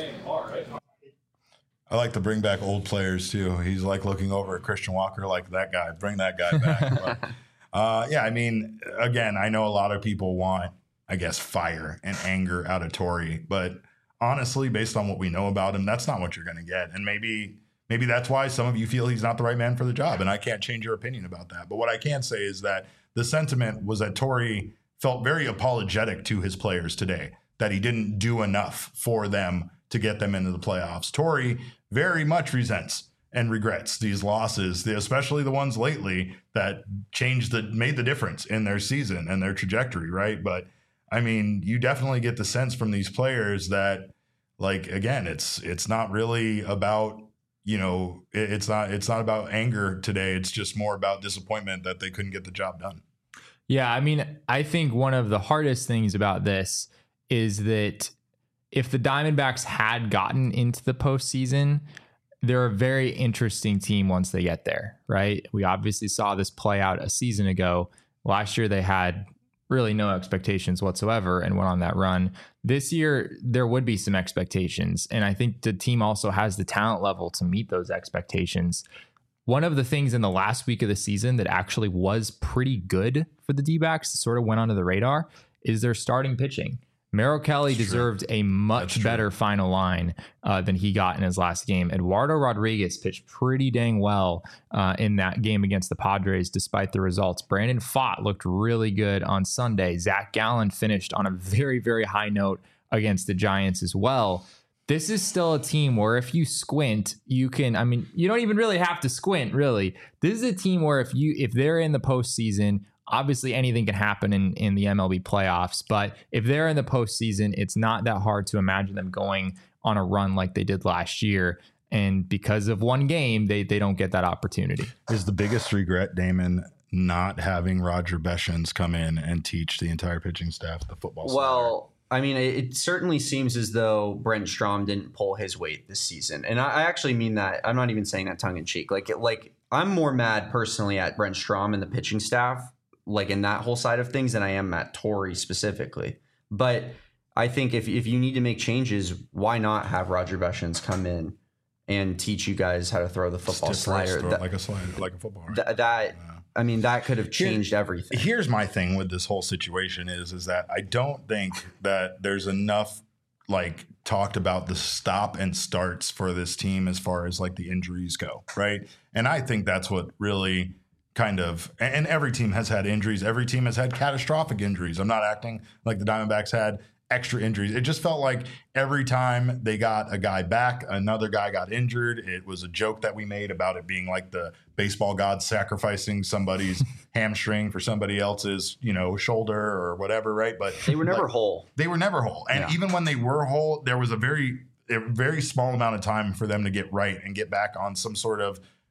I like to bring back old players too. He's like looking over at Christian Walker, like that guy. Bring that guy back. But, uh, yeah, I mean, again, I know a lot of people want, I guess, fire and anger out of Torey, but honestly, based on what we know about him, that's not what you're going to get. And maybe. Maybe that's why some of you feel he's not the right man for the job, and I can't change your opinion about that. But what I can say is that the sentiment was that Torey felt very apologetic to his players today, that he didn't do enough for them to get them into the playoffs. Torey very much resents and regrets these losses, especially the ones lately that changed the made the difference in their season and their trajectory, right? But I mean, you definitely get the sense from these players that, like, again, it's it's not really about. You know, it's not it's not about anger today. It's just more about disappointment that they couldn't get the job done. Yeah, I mean, I think one of the hardest things about this is that if the Diamondbacks had gotten into the postseason, they're a very interesting team once they get there, right? We obviously saw this play out a season ago. Last year, they had really no expectations whatsoever and went on that run. This year, there would be some expectations. And I think the team also has the talent level to meet those expectations. One of the things in the last week of the season that actually was pretty good for the D-backs, sort of went under the radar, is their starting pitching. Merrill Kelly That's deserved true. a much That's better true. final line uh, than he got in his last game. Eduardo Rodriguez pitched pretty dang well uh, in that game against the Padres, despite the results. Brandon Pfaadt looked really good on Sunday. Zach Gallen finished on a very, very high note against the Giants as well. This is still a team where if you squint, you can, I mean, you don't even really have to squint, really. This is a team where if you, if they're in the postseason, obviously anything can happen in, in the M L B playoffs, but if they're in the postseason, it's not that hard to imagine them going on a run like they did last year. And because of one game, they they don't get that opportunity. Is the biggest regret, Damon, not having Roger Beshens come in and teach the entire pitching staff the football side? Well, I mean, it, it certainly seems as though Brent Strom didn't pull his weight this season. And I, I actually mean that. I'm not even saying that tongue in cheek. Like, like I'm more mad personally at Brent Strom and the pitching staff, like in that whole side of things, than I am at Torey specifically. But I think if if you need to make changes, why not have Roger Beshens come in and teach you guys how to throw the football Stiff slider? throw it That, like a slider, like a football. Right? th- that Yeah. I mean, that could have changed Here- everything. Here's my thing with this whole situation is, is that I don't think that there's enough like talked about the stop and starts for this team as far as like the injuries go, right? And I think that's what really kind of, and every team has had injuries. Every team has had catastrophic injuries. I'm not acting like the Diamondbacks had extra injuries. It just felt like every time they got a guy back, another guy got injured. It was a joke that we made about it being like the baseball gods sacrificing somebody's hamstring for somebody else's, you know, shoulder or whatever, right? But They were never like, whole. They were never whole. And Yeah. even when they were whole, there was a very, a very small amount of time for them to get right and get back on some sort of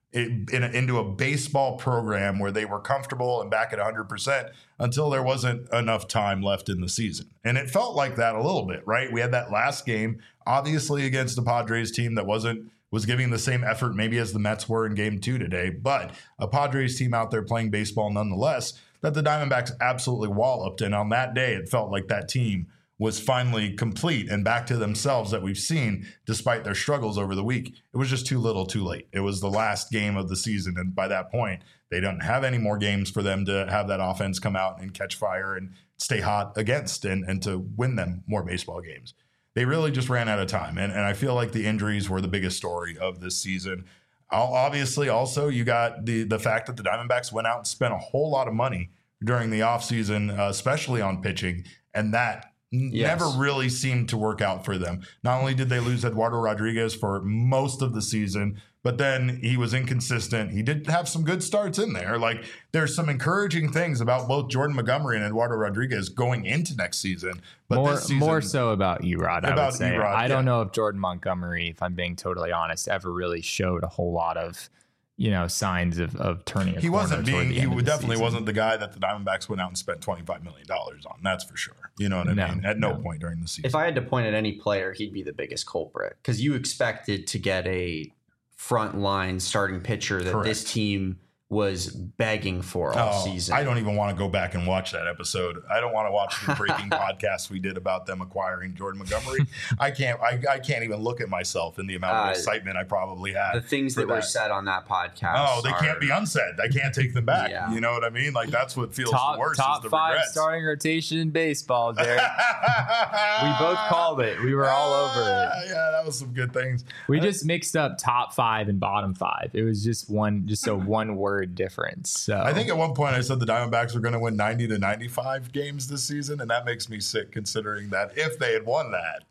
it, in a, into a baseball program where they were comfortable and back at one hundred percent until there wasn't enough time left in the season. And it felt like that a little bit, right? We had that last game, obviously against the Padres team that wasn't was giving the same effort maybe as the Mets were in game two today, but a Padres team out there playing baseball nonetheless that the Diamondbacks absolutely walloped. And on that day, it felt like that team was finally complete and back to themselves that we've seen despite their struggles over the week. It was just too little too late. It was the last game of the season. And by that point, they don't have any more games for them to have that offense come out and catch fire and stay hot against and, and to win them more baseball games. They really just ran out of time. And, and I feel like the injuries were the biggest story of this season. Obviously, also, you got the, the fact that the Diamondbacks went out and spent a whole lot of money during the offseason, uh, especially on pitching. And that Yes. never really seemed to work out for them. Not only did they lose Eduardo Rodriguez for most of the season, but then he was inconsistent. He did have some good starts in there. Like, there's some encouraging things about both Jordan Montgomery and Eduardo Rodriguez going into next season. But more, this season, more so about Erod, I about would say. Erod, I don't yeah. know if Jordan Montgomery, if I'm being totally honest, ever really showed a whole lot of, you know, signs of, of turning a he corner wasn't toward being, the he end of the definitely season. wasn't the guy that the Diamondbacks went out and spent twenty-five million dollars on. That's for sure. You know what I No, mean? At no, no. point during the season. If I had to point at any player, he'd be the biggest culprit because you expected to get a front line starting pitcher that Correct. this team was begging for all Oh, season. I don't even want to go back and watch that episode. I don't want to watch the breaking podcast we did about them acquiring Jordan Montgomery. I can't. I, I can't even look at myself in the amount of Uh, excitement I probably had. The things for that, were said on that podcast. Oh, they are, can't be unsaid. I can't take them back. Yeah. You know what I mean? Like, that's what feels Top, worse. top is the five regrets. starting rotation in baseball, Derek. We both called it. We were all over it. Yeah, that was some good things. We just mixed up top five and bottom five. It was just one, just a one word difference. So I think at one point I said the Diamondbacks were going to win ninety to ninety-five games this season, and that makes me sick considering that if they had won that,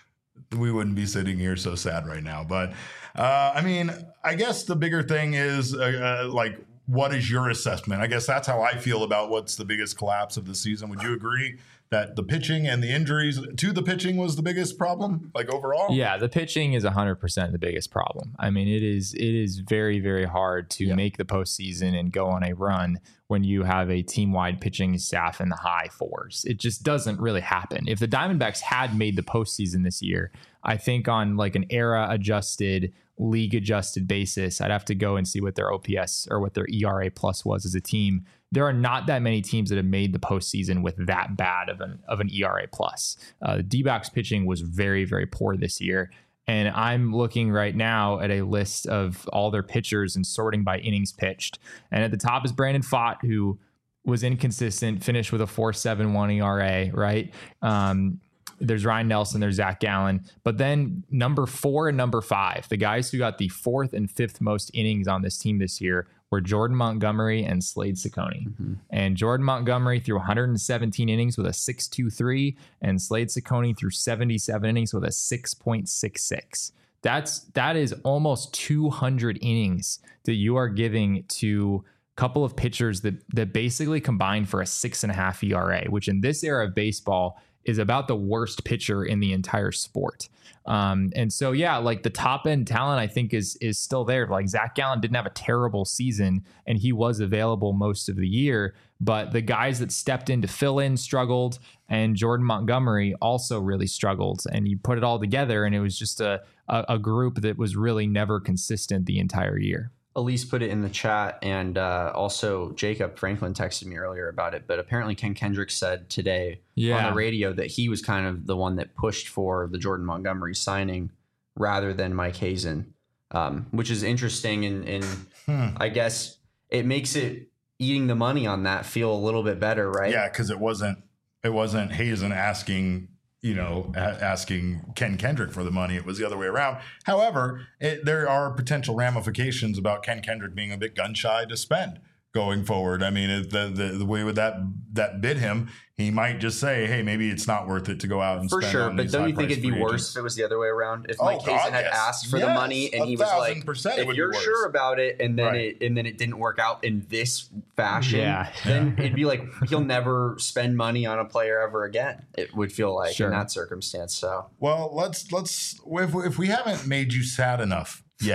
we wouldn't be sitting here so sad right now. But, uh, I mean, I guess the bigger thing is, uh, uh, like, what is your assessment? I guess that's how I feel about what's the biggest collapse of the season. Would you agree that the pitching and the injuries to the pitching was the biggest problem, like overall? Yeah, the pitching is one hundred percent the biggest problem. I mean, it is it is very, very hard to Yeah. make the postseason and go on a run when you have a team-wide pitching staff in the high fours. It just doesn't really happen. If the Diamondbacks had made the postseason this year, I think on like an era-adjusted, league-adjusted basis, I'd have to go and see what their O P S or what their E R A plus was as a team. There are not that many teams that have made the postseason with that bad of an of an E R A plus. Uh, the D-backs pitching was very, very poor this year. And I'm looking right now at a list of all their pitchers and sorting by innings pitched. And at the top is Brandon Pfaadt, who was inconsistent, finished with a four point seven one E R A, right? Um, there's Ryan Nelson, there's Zach Gallen. But then number four and number five, the guys who got the fourth and fifth most innings on this team this year were Jordan Montgomery and Slade Ciccone. Mm-hmm. And Jordan Montgomery threw one hundred seventeen innings with a six point two three, and Slade Ciccone threw seventy-seven innings with a six point six six. That's that is almost two hundred innings that you are giving to a couple of pitchers that that basically combine for a six and a half E R A, which in this era of baseball is about the worst pitcher in the entire sport. Um, and so, yeah, like the top end talent, I think is, is still there. Like Zach Gallen didn't have a terrible season and he was available most of the year, but the guys that stepped in to fill in struggled, and Jordan Montgomery also really struggled. And you put it all together and it was just a, a, a group that was really never consistent the entire year. Elise put it in the chat, and uh, also Jacob Franklin texted me earlier about it, but apparently Ken Kendrick said today yeah. on the radio that he was kind of the one that pushed for the Jordan Montgomery signing rather than Mike Hazen, um, which is interesting, and, and hmm. I guess it makes it eating the money on that feel a little bit better, right? Yeah, because it wasn't it wasn't Hazen asking you know, asking Ken Kendrick for the money. It was the other way around. However, it, there are potential ramifications about Ken Kendrick being a bit gun shy to spend going forward. I mean, the, the the way with that that bid him, he might just say, hey, maybe it's not worth it to go out and for spend sure. on But these don't you think high-priced it'd be free worse agents. if it was the other way around? If Oh, Mike God, Hazen had yes. asked for Yes, the money and a he was thousand like, percent it if would be you're worse. sure about it, and then Right. it and then it didn't work out in this fashion, Yeah. then it'd be like he'll never spend money on a player ever again. It would feel like Sure. in that circumstance. So Well, let's let's if if we haven't made you sad enough yet,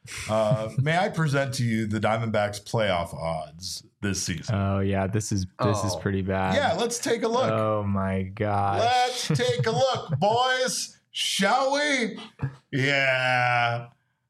Uh, may I present to you the Diamondbacks playoff odds this season? Oh yeah, this is this oh. is pretty bad. Yeah, let's take a look. Oh my gosh. Let's take a look, boys. Shall we? Yeah.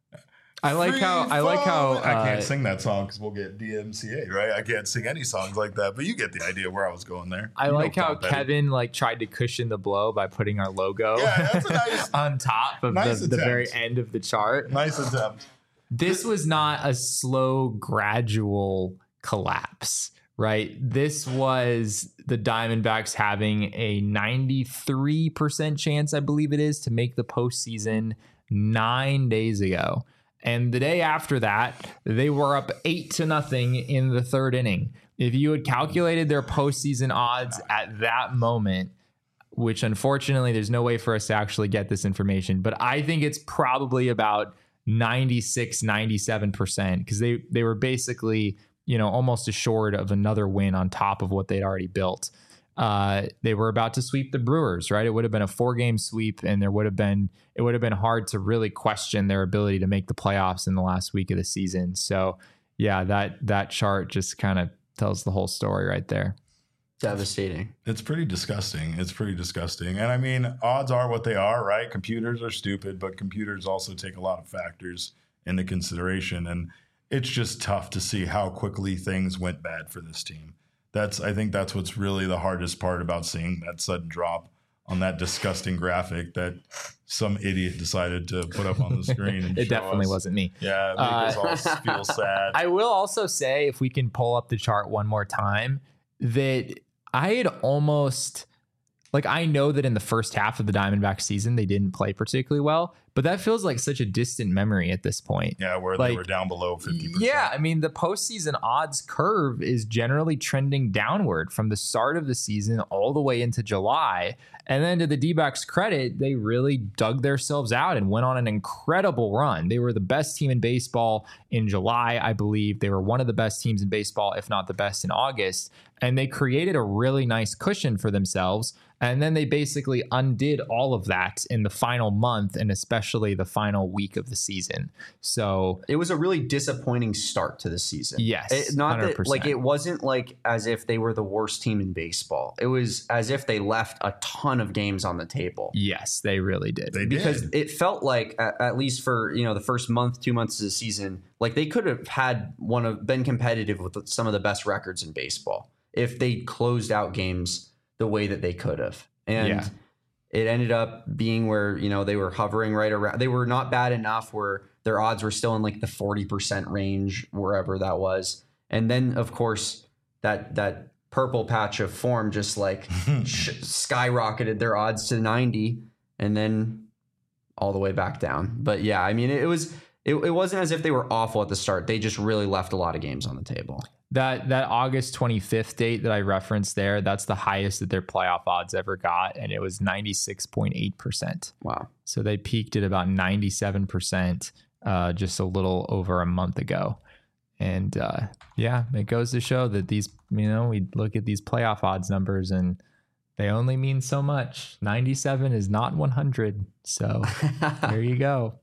I like Free how I like how uh, I can't sing that song because we'll get D M C A, right? I can't sing any songs like that, but you get the idea where I was going there. I you like how Kevin like tried to cushion the blow by putting our logo yeah, that's a nice, on top of nice the, the very end of the chart. Nice attempt. This was not a slow, gradual collapse, right? This was the Diamondbacks having a ninety-three percent chance, I believe it is, to make the postseason nine days ago. And the day after that, they were up eight to nothing in the third inning. If you had calculated their postseason odds at that moment, which unfortunately there's no way for us to actually get this information, but I think it's probably about ninety-six, ninety-seven percent because they, they were basically, you know, almost assured of another win on top of what they'd already built. Uh, they were about to sweep the Brewers, right? It would have been a four game sweep and there would have been, it would have been hard to really question their ability to make the playoffs in the last week of the season. So yeah, that, that chart just kind of tells the whole story right there. Devastating. It's pretty disgusting. It's pretty disgusting. And I mean, odds are what they are, right? Computers are stupid, but computers also take a lot of factors into consideration. And it's just tough to see how quickly things went bad for this team. That's, I think that's what's really the hardest part about seeing that sudden drop on that disgusting graphic that some idiot decided to put up on the screen. And it definitely us. wasn't me. Yeah, it makes uh, us all feel sad. I will also say, if we can pull up the chart one more time, that I had almost, like, I know that in the first half of the Diamondback season, they didn't play particularly well, but that feels like such a distant memory at this point. Yeah, where like, they were down below fifty percent. Yeah, I mean, the postseason odds curve is generally trending downward from the start of the season all the way into July. And then to the D-backs' credit, they really dug themselves out and went on an incredible run. They were the best team in baseball in July, I believe. They were one of the best teams in baseball, if not the best in August. And they created a really nice cushion for themselves. And then they basically undid all of that in the final month and especially the final week of the season. So it was a really disappointing start to the season. Yes. It, not that, like, it wasn't like as if they were the worst team in baseball. It was as if they left a ton of games on the table. Yes, they really did. They because did. It felt like, at, at least for, you know, the first month, two months of the season, like they could have had one of been competitive with some of the best records in baseball if they closed out games the way that they could have. And yeah. It ended up being where, you know, they were hovering right around. They were not bad enough where their odds were still in like the forty percent range, wherever that was. And then, of course, that that purple patch of form just like sh- skyrocketed their odds to ninety and then all the way back down. But yeah, I mean, it, it was it, it wasn't as if they were awful at the start. They just really left a lot of games on the table. That that August twenty-fifth date that I referenced there, that's the highest that their playoff odds ever got, and it was ninety-six point eight percent. Wow. So they peaked at about ninety-seven percent uh, just a little over a month ago. And uh, yeah, it goes to show that these, you know, we look at these playoff odds numbers and they only mean so much. ninety-seven is not one hundred. So there you go.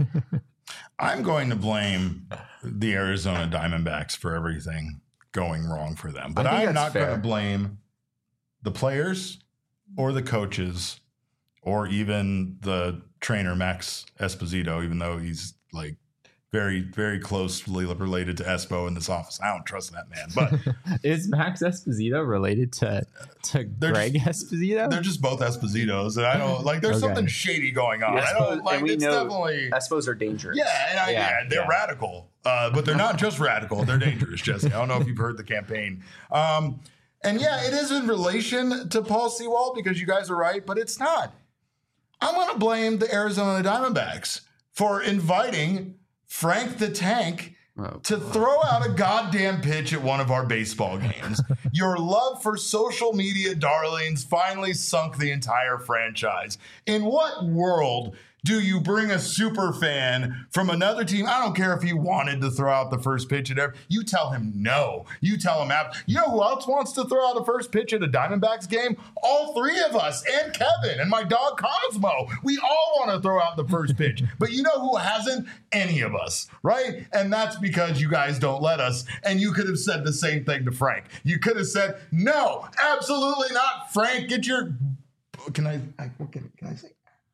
I'm going to blame the Arizona Diamondbacks for everything going wrong for them. But I'm not going to blame the players or the coaches or even the trainer, Max Esposito, even though he's like very, very closely related to Espo in this office. I don't trust that man. But is Max Esposito related to, to Greg just, Esposito? They're just both Espositos. And I don't like, there's okay. something shady going on. Yeah, I don't like, we it's know definitely. Espos are dangerous. Yeah, and I, yeah, yeah, they're yeah. radical. Uh, but they're not just radical. They're dangerous, Jesse. I don't know if you've heard the campaign. Um, and yeah, it is in relation to Paul Sewald because you guys are right, but it's not. I'm going to blame the Arizona Diamondbacks for inviting Frank the Tank oh, to throw out a goddamn pitch at one of our baseball games. Your love for social media darlings finally sunk the entire franchise. In what world do you bring a super fan from another team? I don't care if he wanted to throw out the first pitch at every. You tell him no. You tell him out. You know who else wants to throw out the first pitch at a Diamondbacks game? All three of us and Kevin and my dog Cosmo. We all want to throw out the first pitch. But you know who hasn't? Any of us, right? And that's because you guys don't let us. And you could have said the same thing to Frank. You could have said, no, absolutely not, Frank. Get your. Can I? I can, can I say?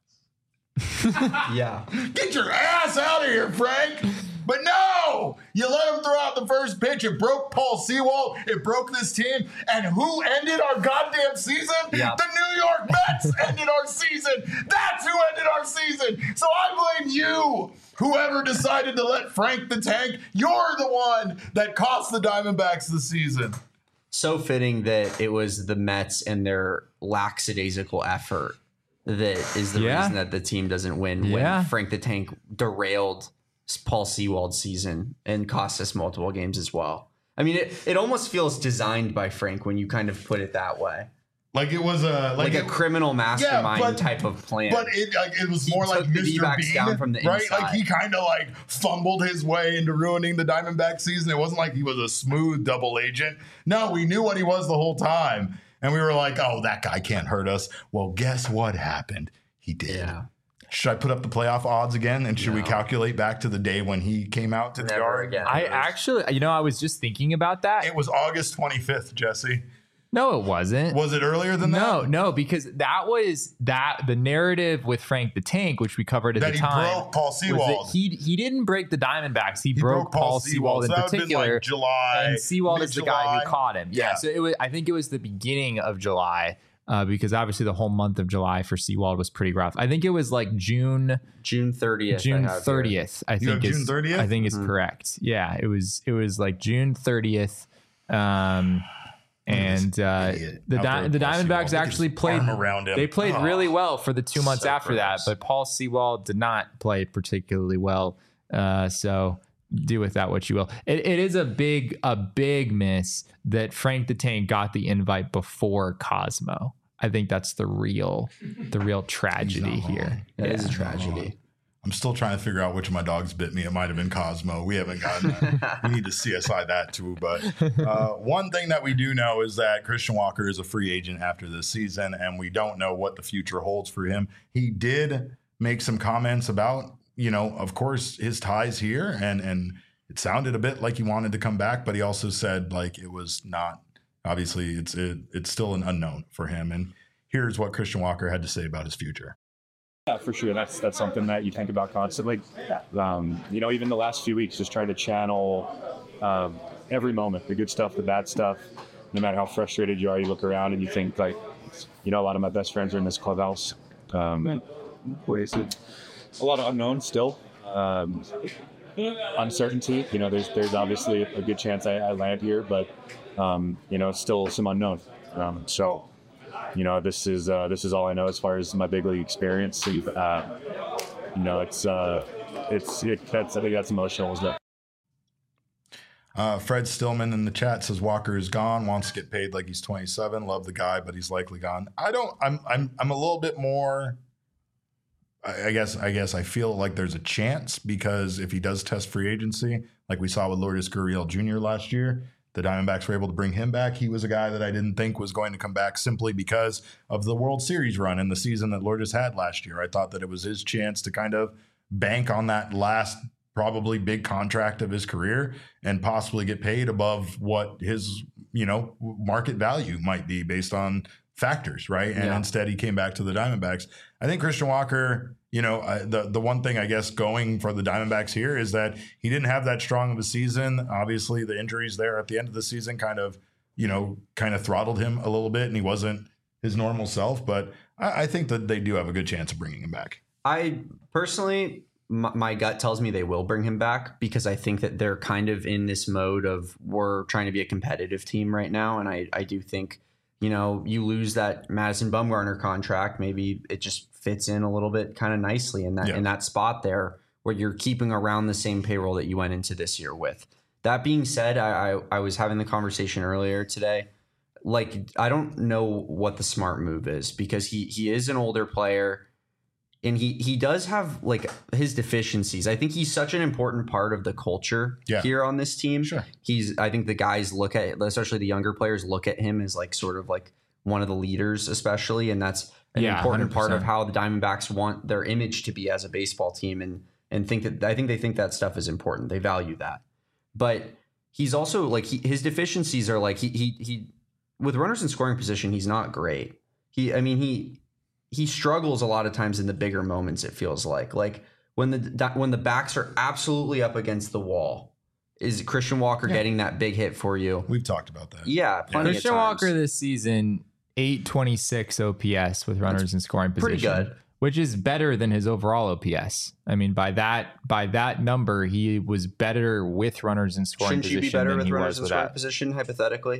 Yeah. Get your ass out of here, Frank. But no, you let him throw out the first pitch. It broke Paul Sewald. It broke this team. And who ended our goddamn season? Yeah. The New York Mets ended our season. That's who ended our season. So I blame you. Whoever decided to let Frank the Tank, you're the one that cost the Diamondbacks the season. So fitting that it was the Mets and their lackadaisical effort that is the Yeah. reason that the team doesn't win Yeah. when Frank the Tank derailed Paul Sewald's season and cost us multiple games as well. I mean, it, it almost feels designed by Frank when you kind of put it that way. Like it was a Like, like, a it, criminal mastermind but- type of plan. But it like it was He more like took the Mister D-backs Bean, down from the right? inside. Like he kind of like fumbled his way into ruining the Diamondback season. It wasn't like he was a smooth double agent. No, we knew what he was the whole time, and we were like, "Oh, that guy can't hurt us." Well, guess what happened? He did. Yeah. Should I put up the playoff odds again? And should we No. calculate back to the day when he came out to the Never yard? again. I actually, you know, I was just thinking about that. It was August twenty-fifth, Jesse. No, it wasn't. Was it earlier than No, that? no, because that was that the narrative with Frank the Tank, which we covered at That the he time. broke Paul was that Sewald. He he didn't break the Diamondbacks. He, He broke, Paul Sewald in So that would've been, particular. like, July, and Sewald is the guy mid-July. who caught him. Yeah. Yeah. So it was. I think it was the beginning of July. Uh, because obviously the whole month of July for Sewald was pretty rough. I think it was like June June thirtieth. June thirtieth. I You think have is June thirtieth? I think is Mhm. correct. Yeah, it was it was like June thirtieth. Um, and uh, idiot the out Di- there, the Paul Sewald. Diamondbacks Look at actually his played arm around him. They played Oh, really well for the two months so after that, gross. but Paul Sewald did not play particularly well. Uh, so do with that what you will. It, it is a big a big miss that Frank the Tank got the invite before Cosmo. I think that's the real the real tragedy wrong. here. That is a Yeah. tragedy. I'm still trying to figure out which of my dogs bit me. It might have been Cosmo. We haven't gotten that. We need to C S I that too. But uh, one thing that we do know is that Christian Walker is a free agent after this season, and we don't know what the future holds for him. He did make some comments about, you know, of course, his ties here, and and it sounded a bit like he wanted to come back, but he also said like it was not. Obviously, it's it, it's still an unknown for him. And here's what Christian Walker had to say about his future. Yeah, for sure. That's that's something that you think about constantly. Um, you know, even the last few weeks, just trying to channel um, every moment, the good stuff, the bad stuff. No matter how frustrated you are, you look around and you think like, you know, a lot of my best friends are in this clubhouse. Um, wasted. A lot of unknowns still. Um, uncertainty. You know, there's there's obviously a good chance I, I land here, but um, you know, still some unknown. Um, so. You know, this is uh, this is all I know as far as my big league experience. Uh, you know, it's uh, it's it, that's I think that's emotional as well. Uh, Fred Stillman in the chat says Walker is gone. Wants to get paid like he's twenty-seven. Love the guy, but he's likely gone. I don't. I'm. I'm. I'm a little bit more. I I guess. I guess I feel like there's a chance because if he does test free agency, like we saw with Lourdes Gurriel Junior last year, the Diamondbacks were able to bring him back. He was a guy that I didn't think was going to come back simply because of the World Series run in the season that Lourdes had last year. I thought that it was his chance to kind of bank on that last probably big contract of his career and possibly get paid above what his, you know, market value might be based on factors, right? And Yeah. instead he came back to the Diamondbacks. I think Christian Walker, you know, uh, the the one thing I guess going for the Diamondbacks here is that he didn't have that strong of a season. Obviously, the injuries there at the end of the season kind of, you know, kind of throttled him a little bit, and he wasn't his normal self. But I, I think that they do have a good chance of bringing him back. I personally, my, my gut tells me they will bring him back because I think that they're kind of in this mode of we're trying to be a competitive team right now. And I, I do think, you know, you lose that Madison Bumgarner contract, maybe it just fits in a little bit kind of nicely in that Yeah. in that spot there where you're keeping around the same payroll that you went into this year with. That being said, I, I, I was having the conversation earlier today. Like, I don't know what the smart move is because he he is an older player. and he he does have like his deficiencies. I think he's such an important part of the culture Yeah. here on this team. Sure. He's I think the guys look at, especially the younger players, look at him as like sort of like one of the leaders, especially, and that's an Yeah, important part of one hundred percent. how the Diamondbacks want their image to be as a baseball team, and and think that I think they think that stuff is important. They value that, but he's also like he, his deficiencies are like he he he with runners in scoring position, he's not great. He I mean he he struggles a lot of times in the bigger moments. It feels like like when the when the backs are absolutely up against the wall. Is Christian Walker Yeah. getting that big hit for you? We've talked about that. Yeah, plenty Christian of times. Walker this season, eight twenty-six O P S with runners in scoring position. pretty good. Which is better than his overall O P S. I mean, by that by that number, he was better with runners in scoring Shouldn't you position be better than with he runners was in with scoring that. position, hypothetically?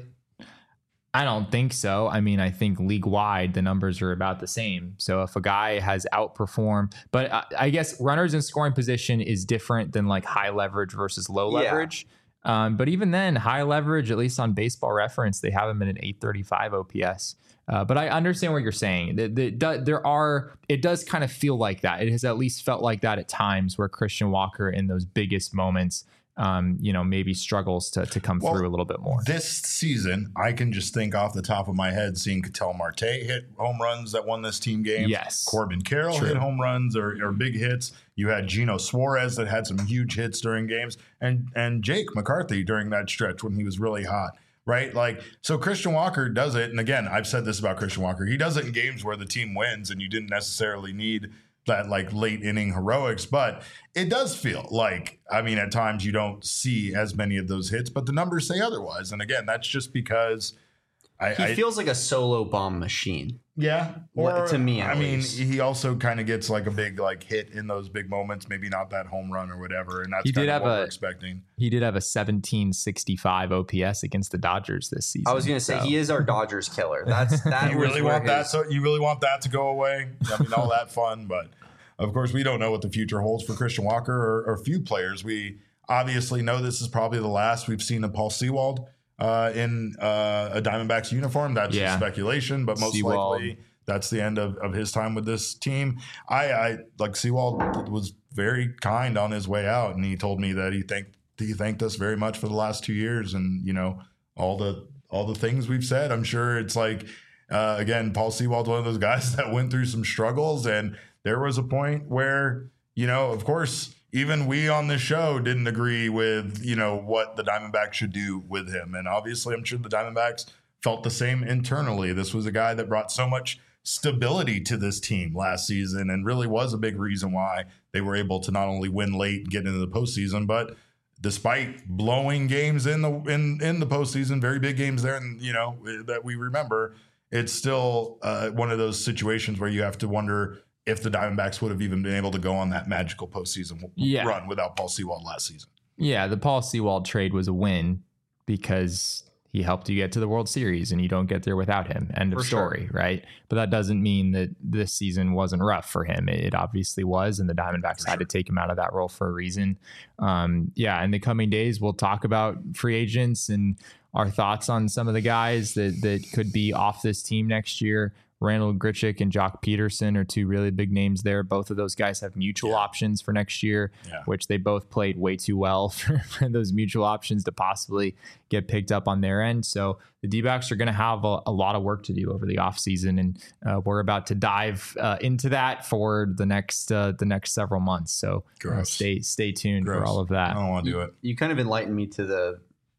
I don't think so. I mean, I think league wide, the numbers are about the same. So if a guy has outperformed, but I, I guess runners in scoring position is different than like high leverage versus low Yeah. leverage. Um, but even then, high leverage, at least on Baseball Reference, they have him at an eight thirty-five O P S. Uh, but I understand what you're saying. The, the, the, there are, it does kind of feel like that. It has at least felt like that at times where Christian Walker in those biggest moments, um, you know, maybe struggles to to come Well, through a little bit more. This season, I can just think off the top of my head, seeing Ketel Marte hit home runs that won this team game. Yes. Corbin Carroll True. hit home runs or, or big hits. You had Gino Suarez that had some huge hits during games, and and Jake McCarthy during that stretch when he was really hot. Right? Like, so Christian Walker does it. And again, I've said this about Christian Walker. He does it in games where the team wins and you didn't necessarily need that like late inning heroics, but it does feel like, I mean, at times you don't see as many of those hits, but the numbers say otherwise. And again, that's just because I, He I feels like a solo bomb machine. yeah. Well, Or to me, at I mean, least. he also kind of gets like a big like hit in those big moments, maybe not that home run or whatever. And that's He did kind of have what a- we're expecting. He did have a seventeen sixty-five O P S against the Dodgers this season. I was going to say so- he is our Dodgers killer. That's that. You was really where want that? his- So you really want that to go away? I mean, all that fun, but of course, we don't know what the future holds for Christian Walker or, or few players. We obviously know this is probably the last we've seen of Paul Sewald uh, in uh, a Diamondbacks uniform. That's just Yeah. speculation, but most Sewald. likely that's the end of, of his time with this team. I, I like Sewald was very kind on his way out, and he told me that he thanked he thanked us very much for the last two years, and you know all the all the things we've said. I'm sure it's like uh, again, Paul Sewald's one of those guys that went through some struggles, and there was a point where you know, of course, even we on this show didn't agree with you know what the Diamondbacks should do with him, and obviously, I'm sure the Diamondbacks felt the same internally. This was a guy that brought so much stability to this team last season and really was a big reason why they were able to not only win late and get into the postseason, but despite blowing games in the in in the postseason, very big games there, and you know that we remember, it's still uh, one of those situations where you have to wonder if the Diamondbacks would have even been able to go on that magical postseason Yeah. run without Paul Sewald last season. Yeah, the Paul Sewald trade was a win because he helped you get to the World Series, and you don't get there without him. End of For sure. story, right? But that doesn't mean that this season wasn't rough for him. It obviously was, and the Diamondbacks had to take him out of that role for a reason. Um, yeah, in the coming days, we'll talk about free agents and our thoughts on some of the guys that that could be off this team next year. Randall Grichuk and Jock Peterson are two really big names there. Both of those guys have mutual Yeah. options for next year, Yeah. which they both played way too well for, for those mutual options to possibly get picked up on their end. So the D-backs are going to have a, a lot of work to do over the offseason, and uh, we're about to dive uh, into that for the next uh, the next several months. So uh, Gross. stay stay tuned for Gross. all of I that. don't want to do it. You kind of enlightened me to the,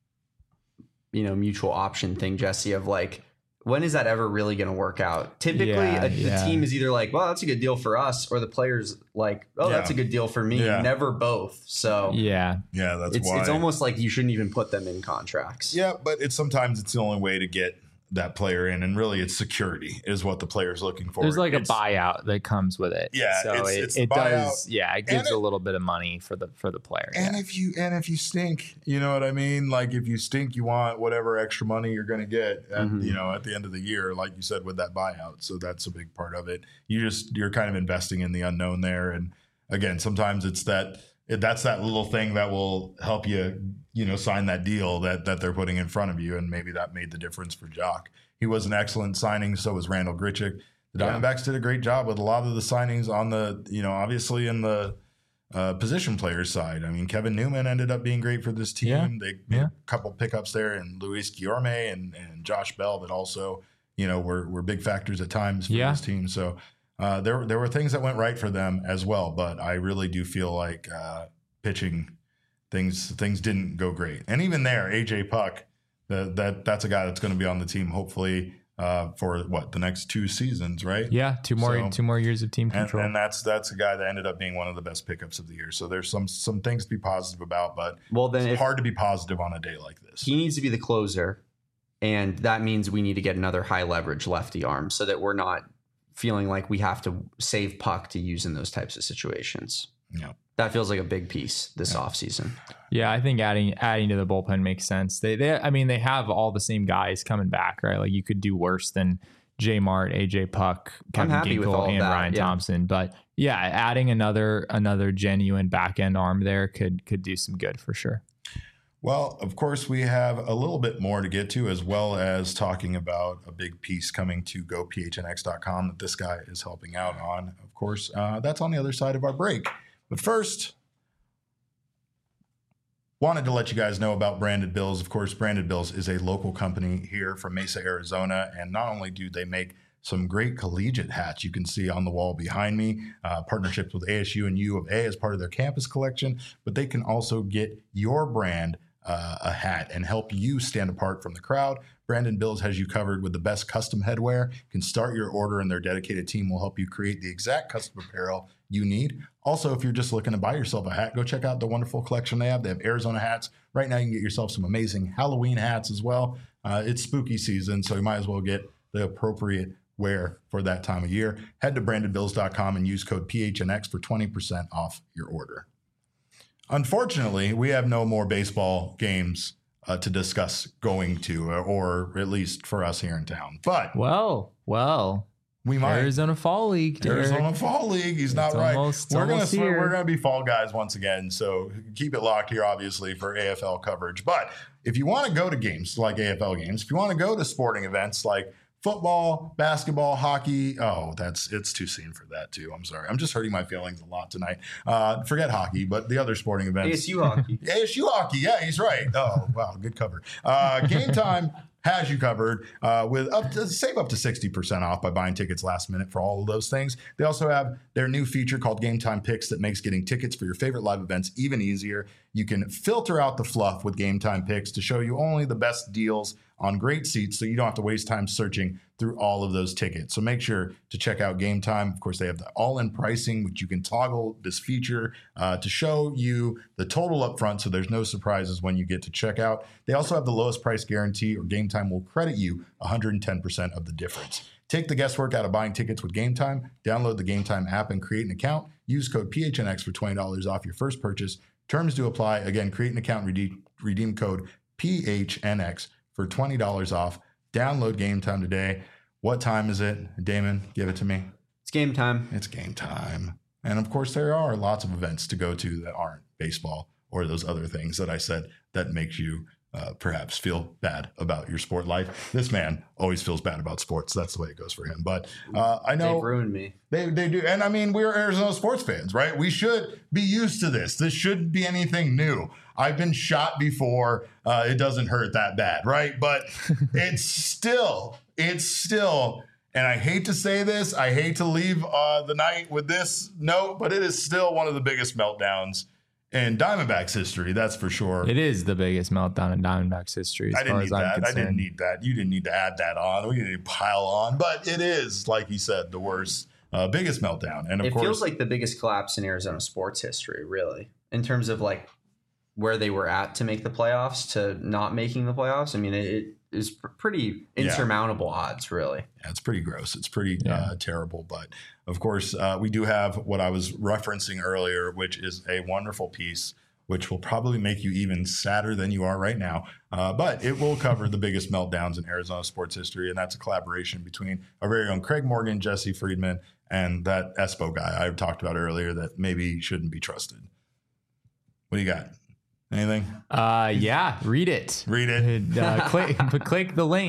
you know, mutual option thing, Jesse, of like, when is that ever really going to work out? Typically, Yeah, a, yeah. the team is either like, well, that's a good deal for us, or the player's like, oh, Yeah. that's a good deal for me. Yeah. Never both. So Yeah, Yeah, that's it's why. it's almost like you shouldn't even put them in contracts. Yeah, but it's sometimes it's the only way to get that player in, and really it's security is what the player's looking for. there's like It's- a buyout that comes with it. Yeah, so it's- it, it's the it does. buyout. Yeah, it gives And a it- little bit of money for the for the player. And yeah. if you and if you stink, you know what I mean? Like if you stink, you want whatever extra money you're going to get at, Mhm. you know, at the end of the year, like you said, with that buyout. So that's a big part of it. You just, you're kind of investing in the unknown there. And again, sometimes it's that, it, that's that little thing that will help you, you know, sign that deal that, that they're putting in front of you. And maybe that made the difference for Jock. He was an excellent signing. So was Randall Grichuk. The Diamondbacks yeah. did a great job with a lot of the signings on the, you know, obviously in the uh, position players side. I mean, Kevin Newman ended up being great for this team. Yeah. They made yeah. a couple pickups there, and Luis Guillorme and, and Josh Bell that also, you know, were were big factors at times for yeah. this team. So uh, there there were things that went right for them as well. But I really do feel like uh, pitching things things didn't go great. And even there, A J Puck, the, that that's a guy that's going to be on the team hopefully. Uh, for what the next two seasons, right? Yeah, two more so, two more years of team control, and, and that's that's a guy that ended up being one of the best pickups of the year. So there's some some things to be positive about, but well, then it's if hard to be positive on a day like this. He needs to be the closer, and that means we need to get another high leverage lefty arm so that we're not feeling like we have to save Puck to use in those types of situations. Yeah. That feels like a big piece this yeah. offseason. Yeah, I think adding adding to the bullpen makes sense. They they I mean they have all the same guys coming back, right? Like you could do worse than J Mart, A J Puck, Kevin Ginkel, and that, Ryan yeah. Thompson. But yeah, adding another another genuine back end arm there could could do some good for sure. Well, of course, we have a little bit more to get to, as well as talking about a big piece coming to go P H N X dot com that this guy is helping out on. Of course, uh, that's on the other side of our break. But first, wanted to let you guys know about Branded Bills. Of course, Branded Bills is a local company here from Mesa, Arizona. And not only do they make some great collegiate hats you can see on the wall behind me, uh, partnerships with A S U and U of A as part of their campus collection, but they can also get your brand uh, a hat and help you stand apart from the crowd. Branded Bills has you covered with the best custom headwear. You can start your order and their dedicated team will help you create the exact custom apparel you need. Also, if you're just looking to buy yourself a hat, go check out the wonderful collection they have. They have Arizona hats. Right now, you can get yourself some amazing Halloween hats as well. Uh, it's spooky season, so you might as well get the appropriate wear for that time of year. Head to branded bills dot com and use code P H N X for twenty percent off your order. Unfortunately, we have no more baseball games uh, to discuss going to, or, or at least for us here in town. But well, well. We might. Arizona Fall League. Derek. Arizona Fall League. He's not it's right. Almost, we're gonna here. we're gonna be fall guys once again. So keep it locked here, obviously, for A F L coverage. But if you want to go to games like A F L games, if you want to go to sporting events like football, basketball, hockey, oh, that's it's too soon for that too. I'm sorry. I'm just hurting my feelings a lot tonight. Uh, forget hockey, but the other sporting events. A S U hockey. A S U hockey. Yeah, he's right. Oh, wow, good cover. Uh, Game Time has you covered uh, with up to save up to sixty percent off by buying tickets last minute for all of those things. They also have their new feature called Game Time Picks that makes getting tickets for your favorite live events even easier. You can filter out the fluff with Game Time Picks to show you only the best deals on great seats, so you don't have to waste time searching through all of those tickets. So make sure to check out Game Time. Of course, they have the all-in pricing, which you can toggle this feature uh, to show you the total up front, so there's no surprises when you get to checkout. They also have the lowest price guarantee, or Game Time will credit you one hundred ten percent of the difference. Take the guesswork out of buying tickets with Game Time. Download the Game Time app and create an account. Use code P H N X for twenty dollars off your first purchase. Terms do apply. Again, create an account, redeem, redeem code P H N X for twenty dollars off. Download Game Time today. What time is it? Damon, give it to me. It's game time. It's game time. And of course, there are lots of events to go to that aren't baseball or those other things that I said that makes you uh, perhaps feel bad about your sport life. This man always feels bad about sports. That's the way it goes for him. But uh, I know they've ruined me. They they do. And I mean, we're Arizona sports fans, right? We should be used to this. This shouldn't be anything new. I've been shot before. Uh, it doesn't hurt that bad, right? But it's still, it's still, and I hate to say this, I hate to leave uh, the night with this note, but it is still one of the biggest meltdowns in Diamondbacks history, that's for sure. It is the biggest meltdown in Diamondbacks history. As I didn't far need as I'm that. concerned. I didn't need that. You didn't need to add that on. We didn't need to pile on, but it is, like you said, the worst, uh, biggest meltdown. And of it course, feels like the biggest collapse in Arizona sports history, really, in terms of like where they were at to make the playoffs to not making the playoffs. I mean, it, it is pr- pretty insurmountable yeah. odds, really. Yeah, it's pretty gross. It's pretty yeah. uh, terrible. But of course, uh, we do have what I was referencing earlier, which is a wonderful piece, which will probably make you even sadder than you are right now. Uh, but it will cover the biggest meltdowns in Arizona sports history. And that's a collaboration between our very own Craig Morgan, Jesse Friedman, and that Espo guy I talked about earlier that maybe shouldn't be trusted. What do you got? Anything? Uh, yeah, read it. Read it. Uh, click, click the link.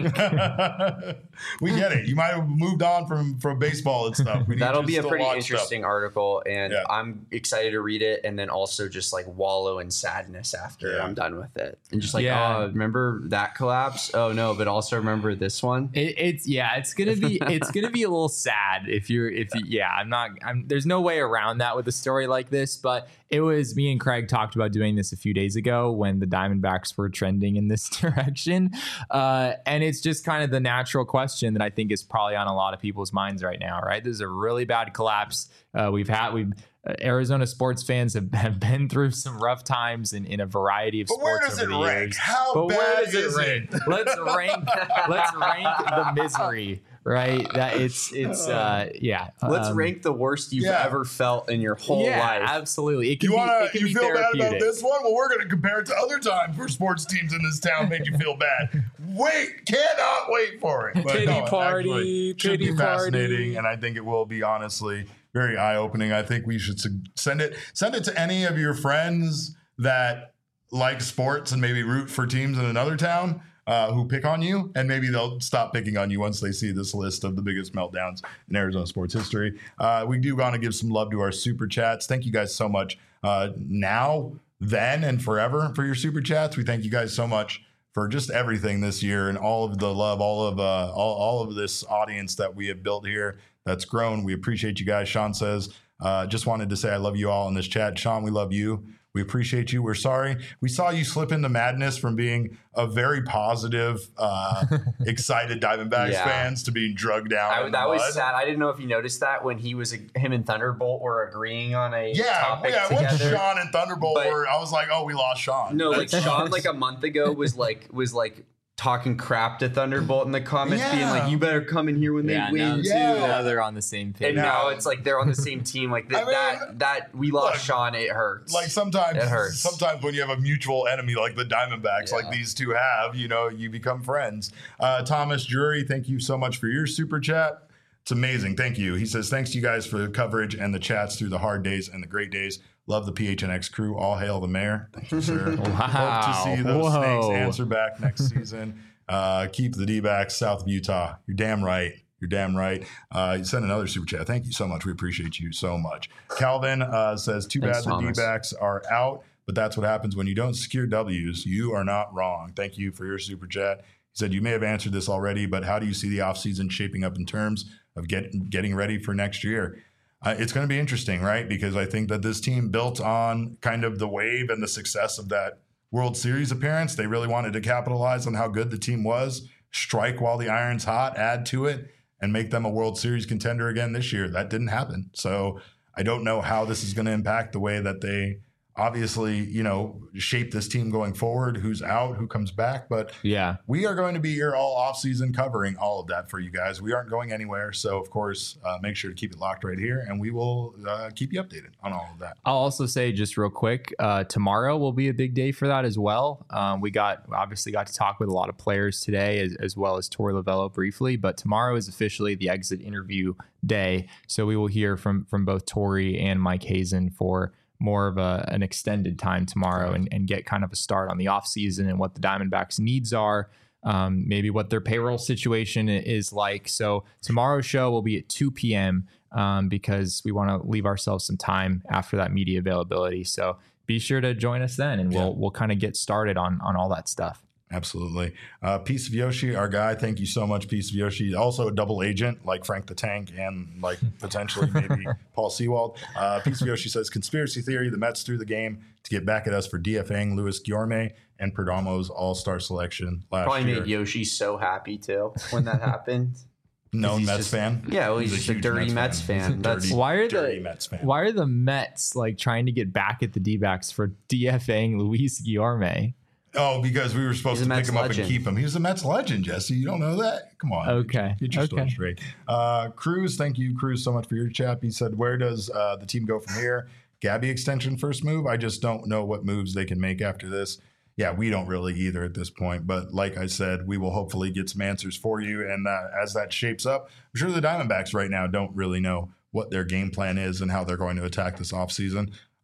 We get it. You might have moved on from from baseball and stuff. We need That'll to be a still pretty watch interesting stuff. article, and Yeah. I'm excited to read it, and then also just like wallow in sadness after Yeah. I'm done with it, and just like, Yeah. oh, remember that collapse? Oh no, but also remember this one. It, it's yeah, it's gonna be it's gonna be a little sad if you're if you, yeah. I'm not. I'm there's no way around that with a story like this. But it was me and Craig talked about doing this a few days ago when the Diamondbacks were trending in this direction, uh, and it's just kind of the natural question that I think is probably on a lot of people's minds right now. Right, this is a really bad collapse. Uh, we've had we've. Uh, Arizona sports fans have, have been through some rough times in, in a variety of But where sports does over it the rank? years. How but bad where does is it rank? it? Let's rank. Let's rank the misery. Right. That it's it's uh yeah. Let's um, rank the worst you've yeah. ever felt in your whole yeah, life. absolutely. It can You be, want it to? can You be feel bad about therapeutic. this one? Well, we're going to compare it to other times where sports teams in this town made you feel bad. Wait, cannot wait for it. But Pity no, party, actually, should pity be party. fascinating, and I think it will be honestly very eye opening. I think we should su- send it send it to any of your friends that like sports and maybe root for teams in another town. Uh, who pick on you, and maybe they'll stop picking on you once they see this list of the biggest meltdowns in Arizona sports history. Uh, we do want to give some love to our super chats. Thank you guys so much uh, now, then, and forever for your super chats. We thank you guys so much for just everything this year and all of the love, all of uh, all, all of this audience that we have built here that's grown. We appreciate you guys. Sean says, uh, just wanted to say I love you all in this chat. Sean, we love you. We appreciate you. We're sorry. We saw you slip into madness from being a very positive, uh, excited Diamondbacks Yeah. fans to being drugged down. I, in the that was mud. sad. I didn't know if you noticed that when he was him and Thunderbolt were agreeing on a Yeah, topic yeah. Once together. Sean and Thunderbolt But- were, I was like, oh, we lost Sean. No, like That's- Sean, like a month ago, was like was like talking crap to Thunderbolt in the comments, being Yeah. like, "You better come in here when Yeah, they now, win too." Yeah. now they're on the same page. And now it's like they're on the same team. Like that, I mean, that, that we lost look, Sean. It hurts. Like sometimes, It hurts. sometimes when you have a mutual enemy like the Diamondbacks, Yeah. like these two have, you know, you become friends. Uh, Thomas Drury, thank you so much for your super chat. It's amazing. Thank you. He says, thanks to you guys for the coverage and the chats through the hard days and the great days. Love the P H N X crew. All hail the mayor. Thank you, sir. Hope to see those Whoa. snakes answer back next season. Uh, keep the D-backs south of Utah. You're damn right. You're damn right. Uh, you sent another super chat. Thank you so much. We appreciate you so much. Calvin uh, says, too Thanks, bad the Thomas. D-backs are out, but that's what happens when you don't secure W's. You are not wrong. Thank you for your super chat. He said, you may have answered this already, but how do you see the offseason shaping up in terms of get, getting ready for next year? Uh, it's going to be interesting, right? Because I think that this team built on kind of the wave and the success of that World Series appearance. They really wanted to capitalize on how good the team was, strike while the iron's hot, add to it, and make them a World Series contender again this year. That didn't happen. So I don't know how this is going to impact the way that they obviously, you know, shape this team going forward, who's out, who comes back. But yeah, we are going to be here all offseason covering all of that for you guys. We aren't going anywhere. So, of course, uh, make sure to keep it locked right here, and we will uh, keep you updated on all of that. I'll also say just real quick, uh, tomorrow will be a big day for that as well. Um, we got obviously got to talk with a lot of players today, as, as well as Torey Lovullo briefly. But tomorrow is officially the exit interview day, so we will hear from from both Torey and Mike Hazen for more of a, an extended time tomorrow, and, and get kind of a start on the offseason and what the Diamondbacks' needs are, um, maybe what their payroll situation is like. So tomorrow's show will be at two p.m. Um, because we want to leave ourselves some time after that media availability. So be sure to join us then, and we'll Yeah. we'll kind of get started on on all that stuff. Absolutely. Uh, Piece of Yoshi, our guy. Thank you so much, Piece of Yoshi. Also a double agent like Frank the Tank and like potentially maybe Paul Sewald. Uh, Piece of Yoshi says, conspiracy theory, the Mets threw the game to get back at us for DFAing Luis Guillorme and Perdomo's all-star selection last Probably year. made Yoshi so happy too when that happened. Known he's Mets just- fan? Yeah, well, he's, just a huge dirty Mets He's fan. a That's dirty, Why are dirty the Mets fan. why are the Mets like trying to get back at the D-backs for DFAing Luis Guillorme? Oh, because we were supposed He's a to pick Mets him up legend. and keep him. He was a Mets legend, Jesse. You don't know that? Come on. Okay. Get your story Okay. straight. Uh, Cruz, thank you, Cruz, so much for your chat. He said, where does uh, the team go from here? Gabby extension first move? I just don't know what moves they can make after this. Yeah, we don't really either at this point. But like I said, we will hopefully get some answers for you. And uh, as that shapes up, I'm sure the Diamondbacks right now don't really know what their game plan is and how they're going to attack this offseason.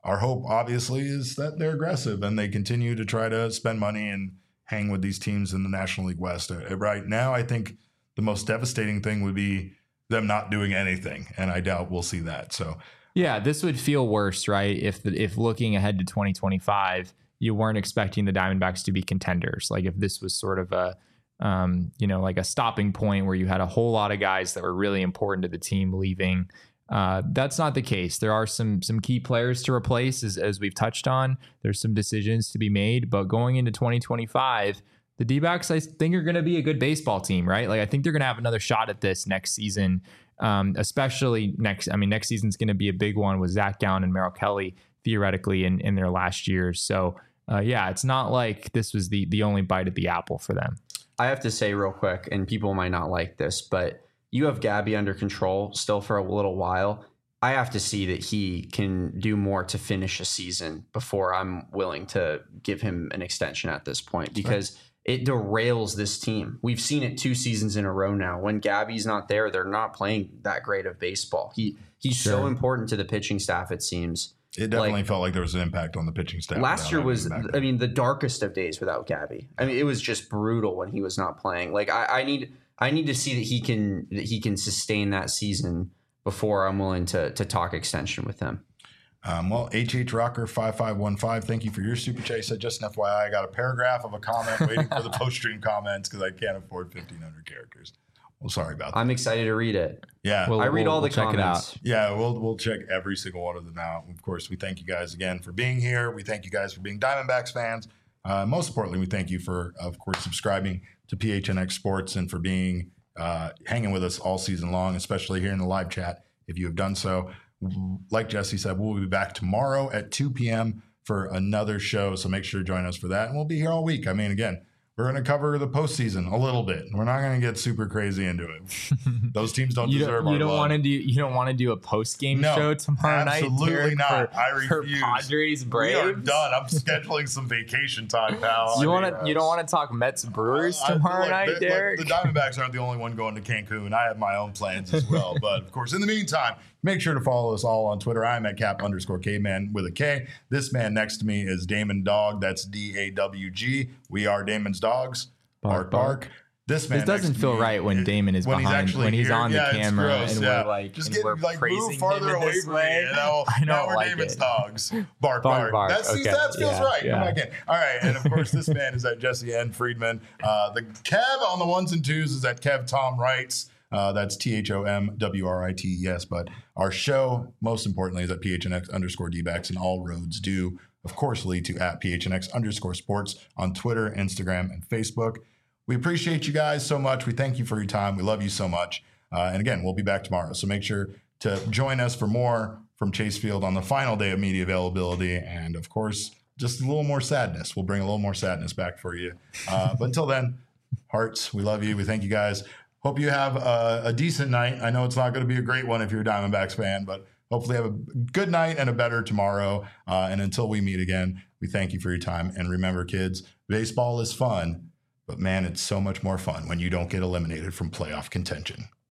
our hope, obviously, is that they're aggressive and they continue to try to spend money and hang with these teams in the National League West. Uh, right now, I think the most devastating thing would be them not doing anything, and I doubt we'll see that. So, yeah, this would feel worse, right? If the, if looking ahead to twenty twenty-five, you weren't expecting the Diamondbacks to be contenders. Like if this was sort of a, um, you know, like a stopping point where you had a whole lot of guys that were really important to the team leaving. Uh, that's not the case. There are some some key players to replace, as, as we've touched on. There's some decisions to be made, but going into twenty twenty-five, the D-backs, I think, are going to be a good baseball team, right? Like I think they're going to have another shot at this next season, um, especially next. I mean, next season's going to be a big one with Zach Gowen and Merrill Kelly theoretically in, in their last years. So, uh, yeah, it's not like this was the the only bite at the apple for them. I have to say real quick, and people might not like this, but you have Gabby under control still for a little while. I have to see that he can do more to finish a season before I'm willing to give him an extension at this point, because it derails this team. We've seen it two seasons in a row now. When Gabby's not there, they're not playing that great of baseball. He He's sure. so important to the pitching staff, it seems. It definitely like, felt like there was an impact on the pitching staff. Last year was, I mean, the darkest of days without Gabby. I mean, it was just brutal when he was not playing. Like I, I need... I need to see that he can that he can sustain that season before I'm willing to to talk extension with him. Um, well, H H Rocker five five one five, thank you for your super chat. Said just an F Y I, I got a paragraph of a comment waiting for the post stream comments because I can't afford fifteen hundred characters. Well, sorry about that. I'm excited to read it. Yeah, we'll, I read we'll, all the we'll check comments. It out. Yeah, we'll we'll check every single one of them out. Of course, we thank you guys again for being here. We thank you guys for being Diamondbacks fans. Uh, most importantly, we thank you for, of course, subscribing to P H N X Sports and for being uh, hanging with us all season long, especially here in the live chat. If you have done so, like Jesse said, we'll be back tomorrow at two p.m. for another show. So make sure to join us for that. And we'll be here all week. I mean, again, we're going to cover the postseason a little bit. We're not going to get super crazy into it. Those teams don't you deserve don't, our you don't love. want to do you don't want to do a post game No, show tomorrow night. absolutely not. For, I refuse. For Padres Braves. We are done. I'm scheduling some vacation time, pal. You I want mean, to you don't want to talk Mets Brewers I- I- tomorrow look, night, the, look, Derek? the Diamondbacks aren't the only one going to Cancun. I have my own plans as well. But of course, in the meantime, make sure to follow us all on Twitter. I'm at cap underscore caveman with a K. This man next to me is Damon Dog. That's D A W G. We are Damon's dogs. Bark, bark. bark. This man. This doesn't next to feel me, right when Damon is when behind, he's when he's here. on the Yeah, it's camera, gross, and yeah. we're like, just and get we're like praising move farther him in away this from way. me. You know, I don't now we're like Damon's it. dogs. Bark, Bark, bark. bark. That's, Okay. That feels Yeah, right. yeah. Come back in. All right, and of course, this man is at Jesse N. Friedman. Uh, the Kev on the ones and twos is at Kev Tom Wrights. Uh, that's T H O M W R I T E S. But our show, most importantly, is at P H N X underscore D-backs, and all roads do, of course, lead to at P H N X underscore sports on Twitter, Instagram, and Facebook. We appreciate you guys so much. We thank you for your time. We love you so much. Uh, and again, we'll be back tomorrow. So make sure to join us for more from Chase Field on the final day of media availability. And of course, just a little more sadness. We'll bring a little more sadness back for you. Uh, but until then, hearts, we love you. We thank you guys. Hope you have a, a decent night. I know it's not going to be a great one if you're a Diamondbacks fan, but hopefully have a good night and a better tomorrow. Uh, and until we meet again, we thank you for your time. And remember, kids, baseball is fun, but man, it's so much more fun when you don't get eliminated from playoff contention.